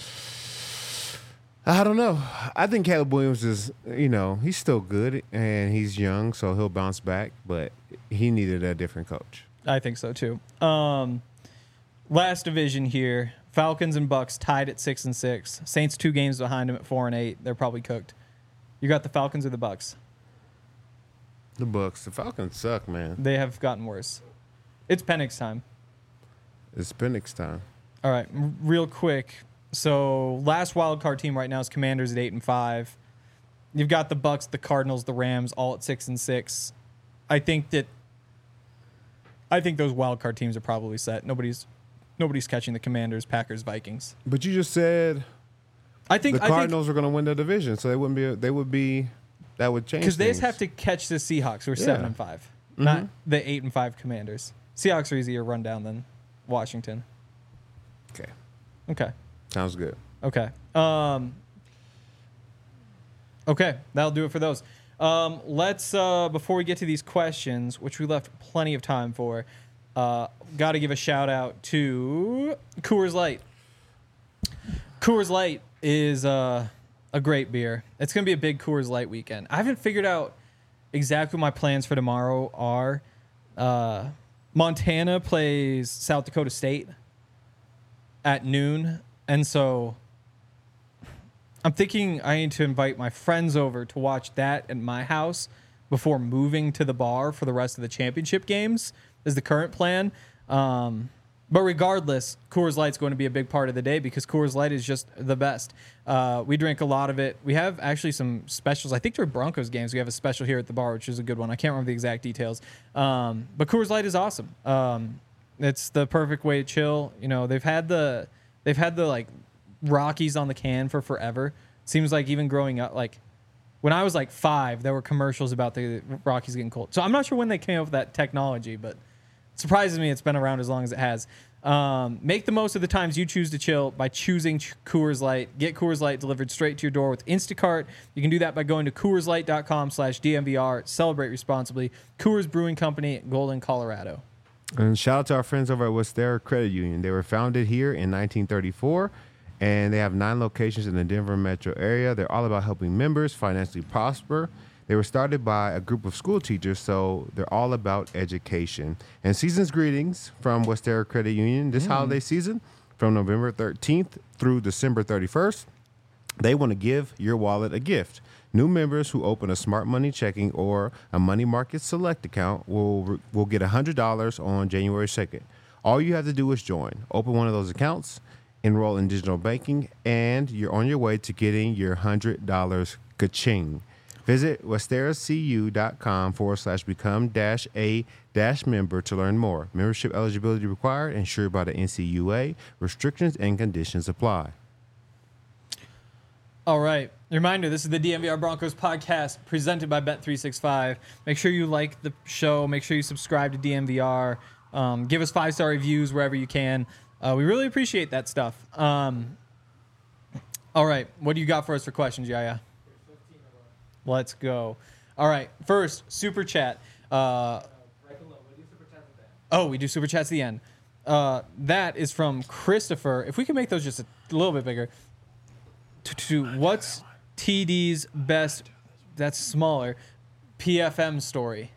don't know. I think Caleb Williams is, he's still good and he's young, so he'll bounce back, but he needed a different coach.
I think so too. Last division here, Falcons and Bucks tied at 6-6. Saints 2 games behind them at 4-8. They're probably cooked. You got the Falcons or the Bucks?
The Bucks. The Falcons suck, man.
They have gotten worse. It's Penix time.
It's Penix time.
All right, real quick. So last wild card team right now is Commanders at 8-5. You've got the Bucks, the Cardinals, the Rams, all at 6-6. I think those wild card teams are probably set. Nobody's catching the Commanders, Packers, Vikings.
But you just said the Cardinals were going to win the division, so that would change
because they just have to catch the Seahawks, who are 7-5, not the 8-5 Commanders. Seahawks are easier to run down than Washington. Okay.
Sounds good.
Okay. Okay, that'll do it for those. Let's before we get to these questions, which we left plenty of time for, got to give a shout out to Coors Light. Coors Light is a great beer. It's going to be a big Coors Light weekend. I haven't figured out exactly what my plans for tomorrow are. Montana plays South Dakota State at noon, and so I'm thinking I need to invite my friends over to watch that at my house before moving to the bar for the rest of the championship games is the current plan. But regardless, Coors Light's going to be a big part of the day because Coors Light is just the best. We drink a lot of it. We have actually some specials. I think during Broncos games, we have a special here at the bar, which is a good one. I can't remember the exact details. But Coors Light is awesome. It's the perfect way to chill. You know, they've had the like Rockies on the can for forever. Seems like even growing up, like when I was like 5, there were commercials about the Rockies getting cold. So I'm not sure when they came up with that technology, but it surprises me it's been around as long as it has. Make the most of the times you choose to chill by choosing Coors Light. Get Coors Light delivered straight to your door with Instacart. You can do that by going to CoorsLight.com/DMVR. Celebrate responsibly. Coors Brewing Company, Golden, Colorado.
And shout out to our friends over at Westera Credit Union. They were founded here in 1934, and they have 9 locations in the Denver metro area. They're all about helping members financially prosper. They were started by a group of school teachers, so they're all about education. And season's greetings from Westera Credit Union this holiday season, from November 13th through December 31st. They want to give your wallet a gift. New members who open a Smart Money checking or a Money Market Select account will get $100 on January 2nd. All you have to do is join. Open one of those accounts, enroll in digital banking, and you're on your way to getting your $100 ka-ching. Visit westeracu.com/become-a-member to learn more. Membership eligibility required, insured by the NCUA. Restrictions and conditions apply.
All right. Reminder, this is the DMVR Broncos podcast presented by Bet365. Make sure you like the show. Make sure you subscribe to DMVR. Give us 5-star reviews wherever you can. We really appreciate that stuff. All right. What do you got for us for questions, Yaya? Let's go. All right. First, super chat. Oh, we do super chats at the end. That is from Christopher. If we can make those just a little bit bigger. What's TD's best, that's smaller, PFM story?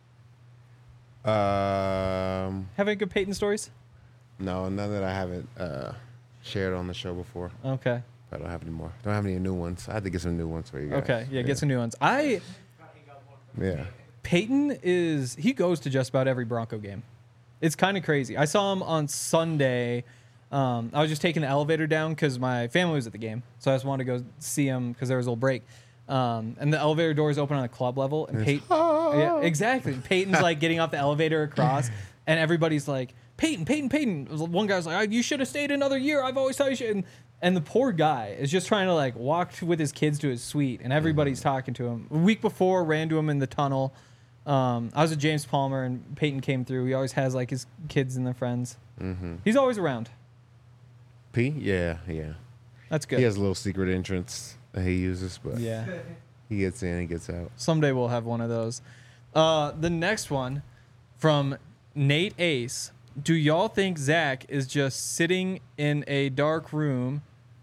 Have any good Peyton stories?
No, none that I haven't shared on the show before.
Okay.
I don't have any more. Don't have any new ones. I had to get some new ones for you guys.
Okay, yeah, get some new ones.
Yeah.
Peyton he goes to just about every Bronco game. It's kind of crazy. I saw him on Sunday. I was just taking the elevator down because my family was at the game, so I just wanted to go see him because there was a little break. And the elevator doors open on the club level, and Peyton, yeah, exactly. Peyton's like getting off the elevator across, and everybody's like, Peyton. One guy's like, you should have stayed another year. I've always thought you should. And the poor guy is just trying to like walk with his kids to his suite, and everybody's talking to him. A week before, ran to him in the tunnel. I was with James Palmer, and Peyton came through. He always has like his kids and their friends. Mm-hmm. He's always around.
P? Yeah.
That's good.
He has a little secret entrance that he uses, but
yeah,
he gets in, he gets out.
Someday we'll have one of those. The next one from Nate Ace. Do y'all think Zach is just sitting in a dark room?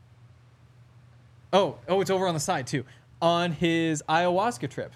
Oh, it's over on the side too. On his ayahuasca trip.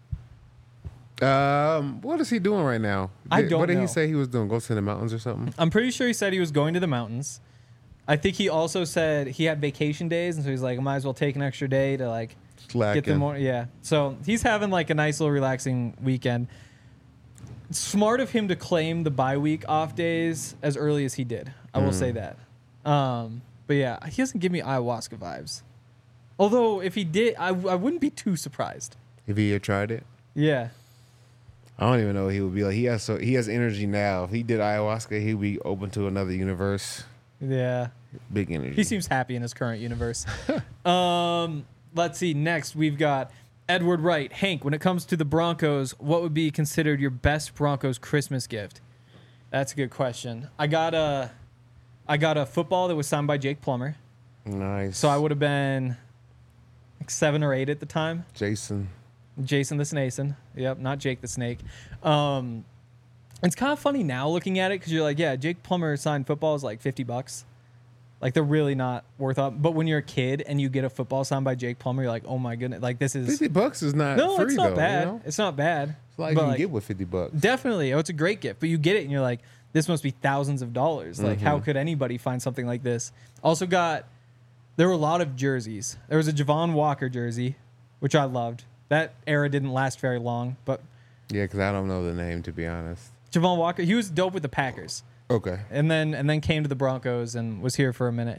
What is he doing right now? What did he say he was doing? Go to the mountains or something?
I'm pretty sure he said he was going to the mountains. I think he also said he had vacation days, and so he's like, I might as well take an extra day to like get the more. Yeah. So he's having like a nice little relaxing weekend. It's smart of him to claim the bye week off days as early as he did. I will say that. But yeah, he doesn't give me ayahuasca vibes. Although if he did, I wouldn't be too surprised.
If he had tried it?
Yeah.
I don't even know what he would be like. He has energy now. If he did ayahuasca, he'd be open to another universe.
Yeah.
Big energy.
He seems happy in his current universe. Let's see. Next, we've got Edward Wright. Hank, when it comes to the Broncos, what would be considered your best Broncos Christmas gift? That's a good question. I got a football that was signed by Jake Plummer.
Nice.
So I would have been like 7 or 8 at the time.
Jason
the Snason. Yep, not Jake the Snake. It's kind of funny now looking at it because you're like, yeah, Jake Plummer signed football is like $50. Like they're really not worth up. But when you're a kid and you get a football signed by Jake Plummer, you're like, oh my goodness, like this is
$50 is not
no,
free,
it's not
though,
bad.
You know?
It's not bad.
It's like you can get with $50.
Definitely, it's a great gift. But you get it and you're like, this must be thousands of dollars. Like how could anybody find something like this? Also there were a lot of jerseys. There was a Javon Walker jersey, which I loved. That era didn't last very long, but
yeah, because I don't know the name, to be honest.
Javon Walker, he was dope with the Packers.
Okay.
and then came to the Broncos and was here for a minute.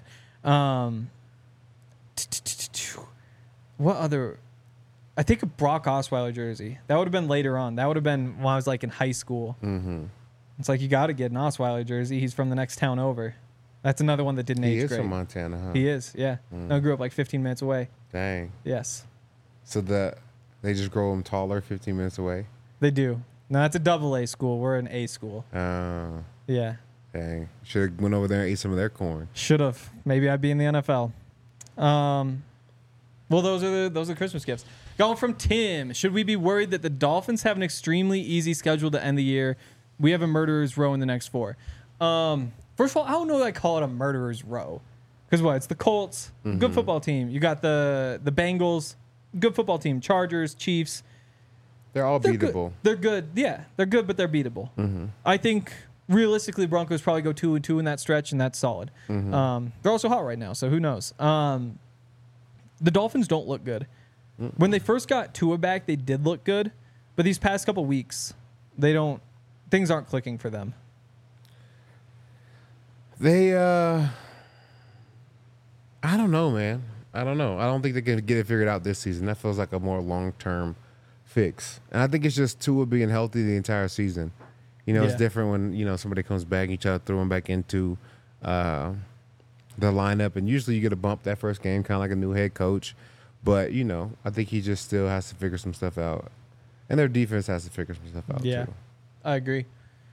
What other? I think a Brock Osweiler jersey. That would have been later on. That would have been when I was like in high school.
Mm-hmm.
It's like you got to get an Osweiler jersey. He's from the next town over. That's another one that didn't
He
age
is
great.
from Montana, huh?
He is, yeah. I grew up like 15 minutes away.
Dang.
Yes,
So they just grow him taller 15 minutes away?
they do. No, that's a double A school. We're an A school. Yeah.
Dang. Should have went over there and ate some of their corn.
Should have. Maybe I'd be in the NFL. Well, those are Christmas gifts. Going from Tim, should we be worried that the Dolphins have an extremely easy schedule to end the year? We have a murderer's row in the next 4. First of all, I don't know that I call it a murderer's row. Because what? It's the Colts, good football team. You got the Bengals, good football team. Chargers, Chiefs.
They're all
They're
beatable.
Good. They're good. Yeah, they're good, but they're beatable. I think realistically, Broncos probably go 2-2 in that stretch, and that's solid. They're also hot right now, so who knows? The Dolphins don't look good. When they first got Tua back, they did look good, but these past couple weeks, things aren't clicking for them.
They, I don't know, man. I don't know. I don't think they can get it figured out this season. That feels like a more long-term fix. And I think it's just Tua being healthy the entire season. It's different when, somebody comes back and you try to throw him back into the lineup. And usually you get a bump that first game, kind of like a new head coach. But, I think he just still has to figure some stuff out. And their defense has to figure some stuff out, too.
I agree.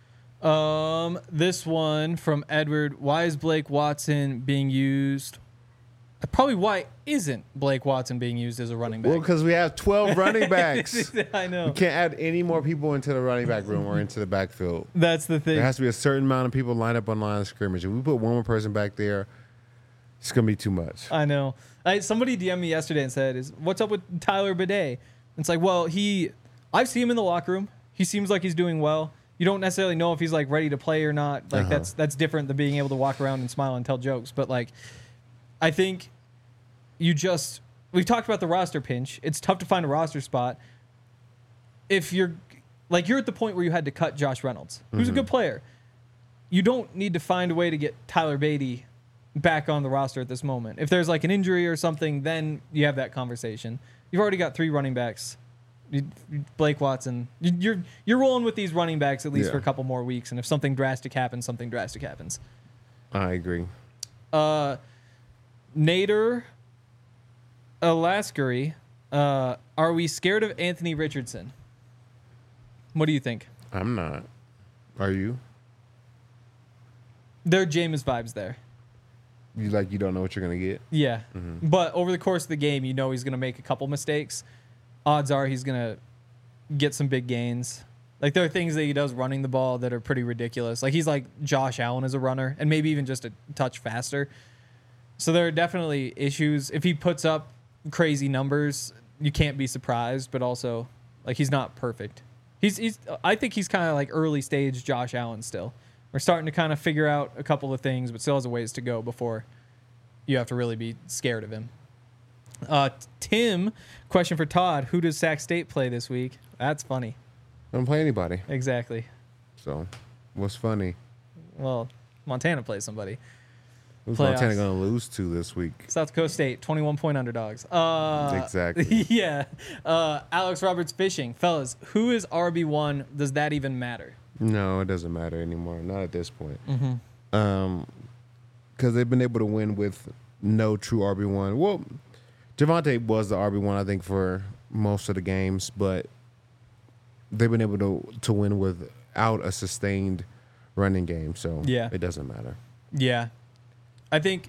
This one from Edward. Why is Blake Watson being used? Probably why isn't Blake Watson being used as a running back?
Well, because we have 12 running backs.
I know.
We can't add any more people into the running back room or into the backfield.
That's the thing.
There has to be a certain amount of people lined up on line of scrimmage. If we put one more person back there, it's going to be too much.
I know. Somebody DM'd me yesterday and said, what's up with Tyler Bidet? It's like, well, I've seen him in the locker room. He seems like he's doing well. You don't necessarily know if he's like ready to play or not. Like that's different than being able to walk around and smile and tell jokes. But like, I think we've talked about the roster pinch. It's tough to find a roster spot. If you're at the point where you had to cut Josh Reynolds, who's a good player. You don't need to find a way to get Tyler Beatty back on the roster at this moment. If there's like an injury or something, then you have that conversation. You've already got 3 running backs. Blake Watson, you're rolling with these running backs at least for a couple more weeks, and if something drastic happens, something drastic happens.
I agree.
Nader Alaskari, are we scared of Anthony Richardson? What do you think?
I'm not. Are you?
There are Jameis vibes there.
You don't know what you're gonna get?
Yeah. But over the course of the game, he's going to make a couple mistakes. Odds are he's going to get some big gains. Like, there are things that he does running the ball that are pretty ridiculous. Like, he's like Josh Allen as a runner, and maybe even just a touch faster. So there are definitely issues. If he puts up crazy numbers, you can't be surprised, but also, like, he's not perfect. I think he's kind of like early stage Josh Allen still. We're starting to kind of figure out a couple of things, but still has a ways to go before you have to really be scared of him. Tim, question for Todd. Who does Sac State play this week? That's funny.
I don't play anybody.
Exactly.
So, what's funny?
Well, Montana plays somebody.
Who's
Playoffs.
Montana going to lose to this week?
South Dakota State, 21-point underdogs.
Exactly.
Yeah. Alex Roberts Fishing. Fellas, who is RB1? Does that even matter?
No, it doesn't matter anymore. Not at this point. Because they've been able to win with no true RB1. Well, Javonte was the RB1, I think, for most of the games, but they've been able to win without a sustained running game. So it doesn't matter.
Yeah. I think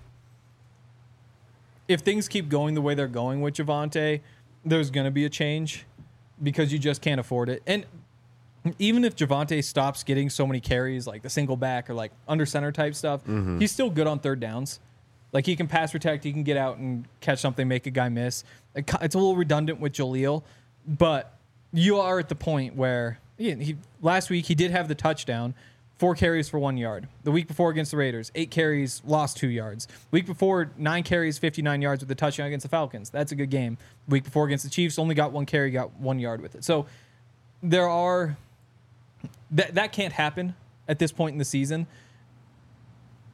if things keep going the way they're going with Javonte, there's going to be a change because you just can't afford it. And even if Javonte stops getting so many carries, like the single back or like under center type stuff, he's still good on third downs. Like, he can pass protect, he can get out and catch something, make a guy miss. It's a little redundant with Jaleel, but you are at the point where last week he did have the touchdown, 4 carries for 1 yard. The week before against the Raiders, 8 carries, lost 2 yards. Week before, 9 carries, 59 yards with the touchdown against the Falcons. That's a good game. Week before against the Chiefs, only got 1 carry, got 1 yard with it. So there are that can't happen at this point in the season.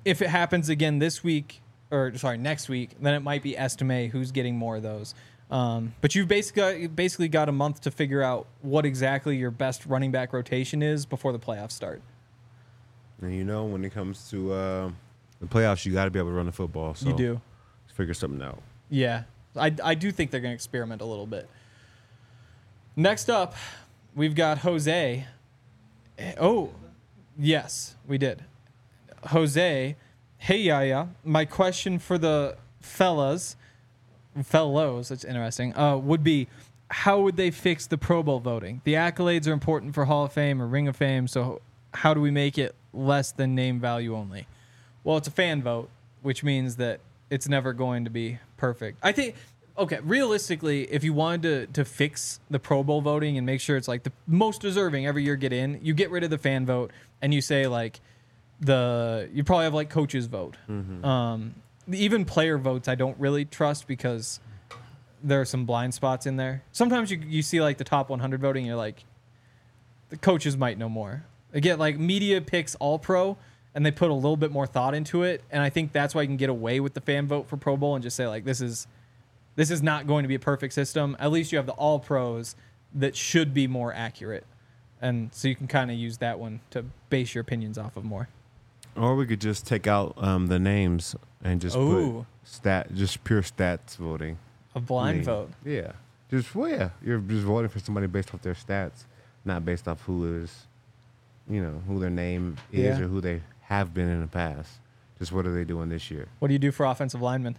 if it happens again this week, or sorry, next week, then it might be estimate who's getting more of those. But you've basically got a month to figure out what exactly your best running back rotation is before the playoffs start.
And you know, when it comes to the playoffs, you got to be able to run the football. So
You do.
let's figure something out.
Yeah. I do think they're going to experiment a little bit. Next up, we've got Jose. Oh, yes, we did. Jose, hey, Yaya. My question for the fellows, that's interesting, would be, how would they fix the Pro Bowl voting? The accolades are important for Hall of Fame or Ring of Fame, so how do we make it less than name value only? Well, it's a fan vote, which means that it's never going to be perfect. I think, okay, realistically, if you wanted to fix the Pro Bowl voting and make sure it's like the most deserving every year get in, you get rid of the fan vote and you say like you probably have like coaches vote. Even player votes I don't really trust because there are some blind spots in there. Sometimes you see like the top 100 voting, you're like, the coaches might know more. Again, like media picks all pro and they put a little bit more thought into it. And I think that's why you can get away with the fan vote for Pro Bowl and just say like, this is not going to be a perfect system. At least you have the all pros that should be more accurate. And so you can kind of use that one to base your opinions off of more.
Or we could just take out the names and just put just pure stats voting.
A blind vote.
Yeah. You're just voting for somebody based off their stats, not based off who their name is or who they have been in the past. Just what are they doing this year?
What do you do for offensive linemen?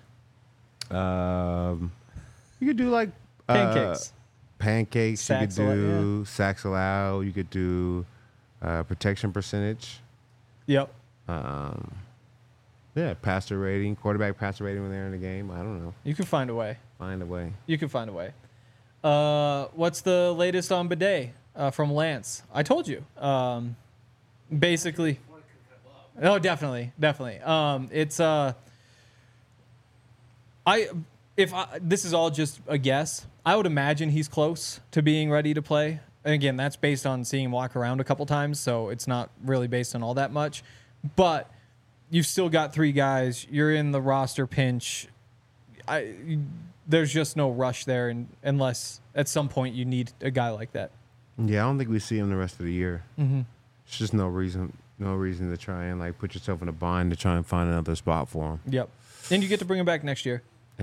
You could do like
Pancakes.
You could do sacks allowed. You could do protection percentage.
Yep.
Passer rating, quarterback passer rating when they're in the game. I don't know.
You can find a way. You can find a way. What's the latest on Bidet from Lance? I told you. Basically. Oh, definitely. It's this is all just a guess. I would imagine he's close to being ready to play. And again, that's based on seeing him walk around a couple times, so it's not really based on all that much. But you've still got 3 guys. You're in the roster pinch. There's just no rush there, unless at some point you need a guy like that.
Yeah, I don't think we see him the rest of the year. Mm-hmm. It's just no reason to try and like put yourself in a bind to try and find another spot for him.
Yep. And you get to bring him back next year.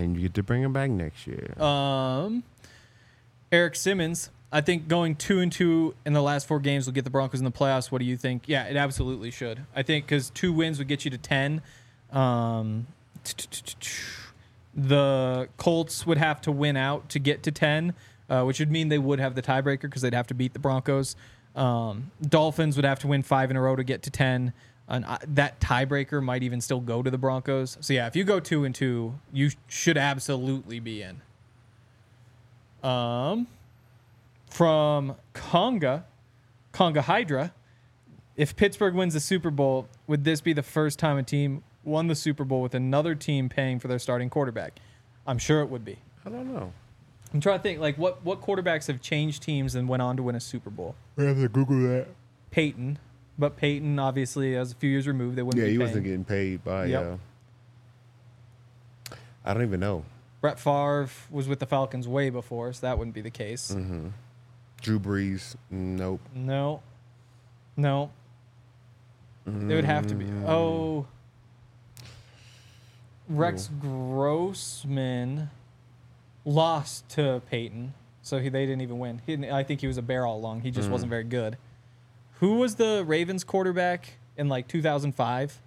Eric Simmons, I think going 2-2 in the last 4 games will get the Broncos in the playoffs. What do you think? Yeah, it absolutely should. I think because 2 wins would get you to 10. The Colts would have to win out to get to 10, which would mean they would have the tiebreaker because they'd have to beat the Broncos. Dolphins would have to win 5 in a row to get to 10. And that tiebreaker might even still go to the Broncos. So, yeah, if you go 2-2, you should absolutely be in. From Conga Hydra, if Pittsburgh wins the Super Bowl, would this be the first time a team won the Super Bowl with another team paying for their starting quarterback? I'm sure it would be.
I don't know.
I'm trying to think, like, what quarterbacks have changed teams and went on to win a Super Bowl?
We have to Google that.
Peyton. But Peyton, obviously, as a few years removed, they wouldn't be paying.
Yeah, he wasn't getting paid by... I don't even know.
Brett Favre was with the Falcons way before, so that wouldn't be the case.
Mm-hmm. Drew Brees, nope.
No. It would have to be... Oh. Rex Grossman lost to Peyton, so they didn't even win. I think he was a bear all along. He just wasn't very good. Who was the Ravens quarterback in like 2005?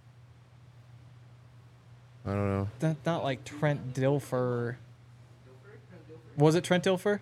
I don't know.
Not like Trent Dilfer. Was it Trent Dilfer?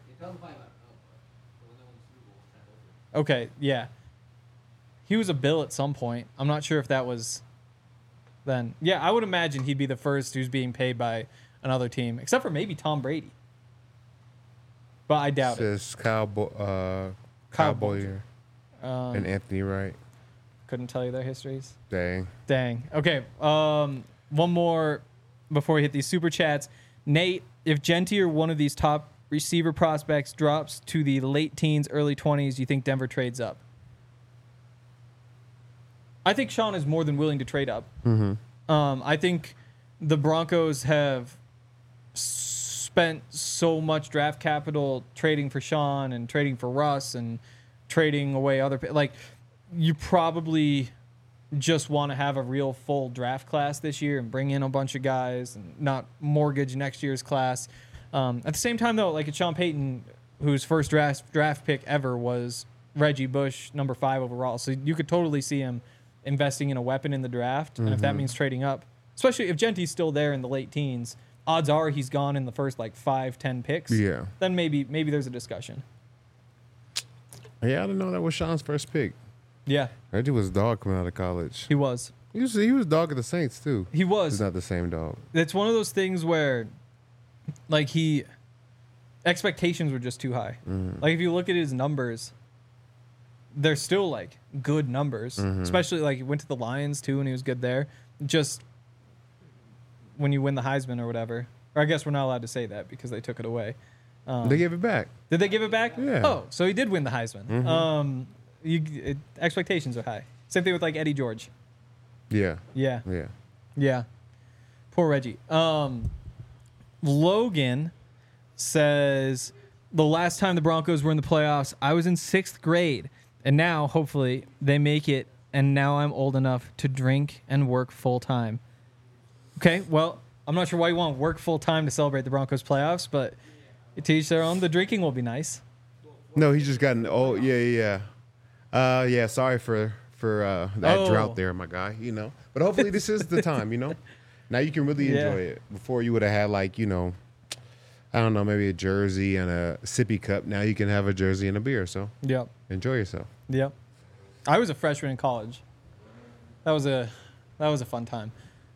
Okay, yeah. He was a Bill at some point. I'm not sure if that was then. Yeah, I would imagine he'd be the first who's being paid by another team, except for maybe Tom Brady. But I doubt it.
Says Kyle Boyer and Anthony Wright.
Couldn't tell you their histories.
Dang.
Okay. One more before we hit these super chats. Nate, if Genty or one of these top receiver prospects drops to the late teens, early 20s, do you think Denver trades up? I think Sean is more than willing to trade up. I think the Broncos have spent so much draft capital trading for Sean and trading for Russ and trading away other like you probably just want to have a real full draft class this year and bring in a bunch of guys and not mortgage next year's class. At the same time, though, like Sean Payton, whose first draft pick ever was Reggie Bush, number 5 overall. So you could totally see him investing in a weapon in the draft. And if that means trading up, especially if Genty's still there in the late teens, odds are he's gone in the first like 5-10 picks.
Yeah.
Then maybe there's a discussion.
Yeah, I didn't know that was Sean's first pick.
Yeah,
Reggie was dog coming out of college.
he was.
He was dog at the Saints too.
He was.
He's not the same dog.
It's one of those things where, like, expectations were just too high. Like, if you look at his numbers, they're still, like, good numbers. Especially, like, he went to the Lions, too, and he was good there. Just when you win the Heisman or whatever. Or I guess we're not allowed to say that because they took it away.
They gave it back.
Did they give it back?
Yeah.
Oh, so he did win the Heisman. Expectations are high. Same thing with, like, Eddie George.
Yeah.
Yeah.
Yeah.
Yeah. Poor Reggie. Logan says, the last time the Broncos were in the playoffs, I was in 6th grade. And now, hopefully, they make it. And now I'm old enough to drink and work full time. Okay, well, I'm not sure why you want to work full time to celebrate the Broncos playoffs, but to each their own. The drinking will be nice.
No, he's just gotten old. Yeah. Yeah, sorry for that drought there, my guy, you know. But hopefully this is the time, you know. Now you can really enjoy it. Before you would have had, like, you know, I don't know, maybe a jersey and a sippy cup. Now you can have a jersey and a beer, so
Yep.
enjoy yourself.
Yep. I was a freshman in college. That was a fun time.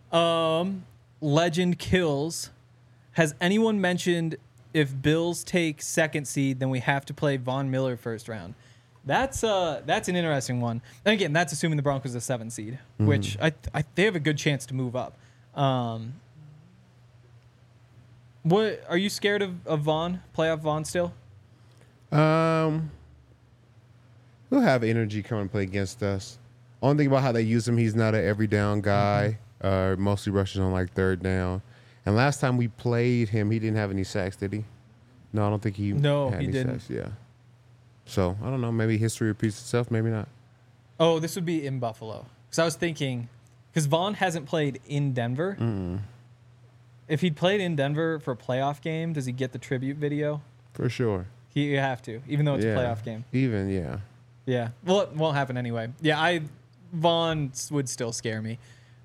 Legend Kills. Has anyone mentioned if Bills take 2nd seed, then we have to play Von Miller first round? That's an interesting one. And again, that's assuming the Broncos are 7th seed, which they have a good chance to move up. What are you scared of Von? Playoff Von still?
He'll have energy come and play against us. Only thing about how they use him, he's not an every down guy. Mostly rushes on like 3rd down. And last time we played him, he didn't have any sacks, did he? No, I don't think he had any
didn't.
sacks. Yeah. So, I don't know. Maybe history repeats itself. Maybe not.
Oh, this would be in Buffalo. Because I was thinking, because Von hasn't played in Denver. If he'd played in Denver for a playoff game, does he get the tribute video?
For sure.
You have to, even though it's a playoff game.
Yeah.
Yeah. Well, it won't happen anyway. Yeah, Von would still scare me.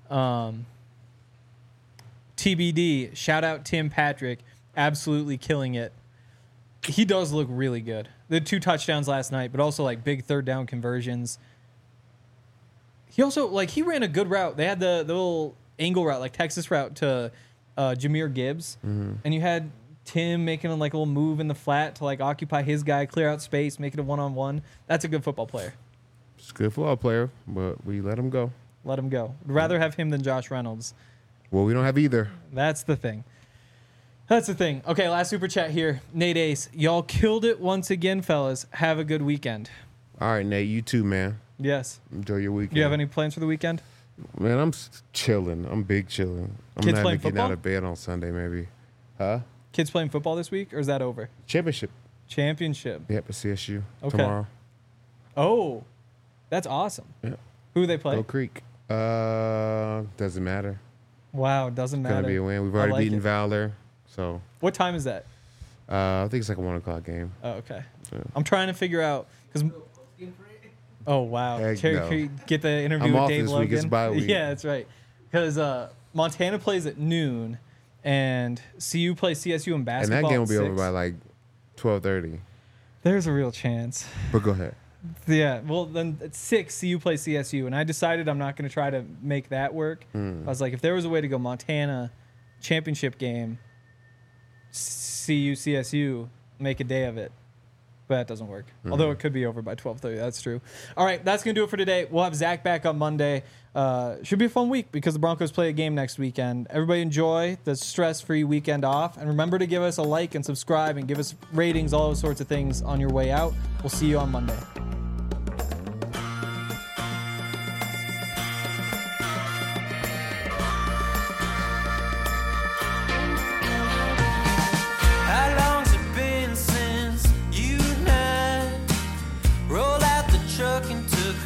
TBD, shout out Tim Patrick, absolutely killing it. He does look really good. The 2 touchdowns last night, but also like big 3rd down conversions. He also, like, he ran a good route. They had the little angle route, like Texas route to Jahmyr Gibbs. And you had Tim making a like little move in the flat to like occupy his guy, clear out space, make it a 1-on-1. That's a good football player.
He's a good football player, but we let him go.
Let him go. Would rather have him than Josh Reynolds.
Well, we don't have either.
That's the thing. Okay, last super chat here. Nate Ace, y'all killed it once again, fellas. Have a good weekend.
All right, Nate, you too, man.
Yes.
Enjoy your weekend.
Do you have any plans for the weekend?
Man, I'm chilling. I'm big chilling. I'm
Kids
not
playing
getting
football?
out of bed on Sunday, maybe. Huh?
Kids playing football this week, or is that over?
Championship.
Championship.
Yep, at CSU
Okay.
tomorrow.
Oh, that's awesome.
Yeah.
Who they play?
Go Creek. Doesn't matter.
Wow, doesn't
It's
matter.
gonna be a win. We've
I
already
like
beaten
it.
Valor, so
What time is that?
I think it's like a 1:00 game.
Oh, okay.
Yeah.
I'm trying to figure out because. Oh wow!
Heck
Terry,
no.
can you get the interview
I'm
with
off
Dave
this
Logan.
week. It's bye week.
Yeah, that's right. Because Montana plays at noon, and CU plays CSU in
And
basketball.
that game will
at
be over
6.
by like 12:30.
There's a real chance.
But go ahead.
Yeah. Well, then at 6, CU plays CSU, and I decided I'm not going to try to make that work. I was like, if there was a way to go Montana championship game, CU CSU, make a day of it. But that doesn't work. Although it could be over by 12:30. That's true. All right, that's going to do it for today. We'll have Zach back on Monday. Should be a fun week because the Broncos play a game next weekend. Everybody enjoy the stress-free weekend off. And remember to give us a like and subscribe and give us ratings, all those sorts of things on your way out. We'll see you on Monday.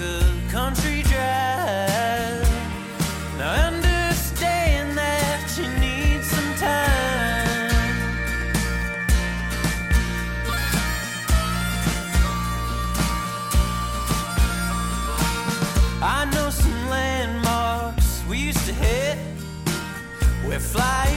a country drive. Now understand that you need some time. I know some landmarks we used to hit. We're flying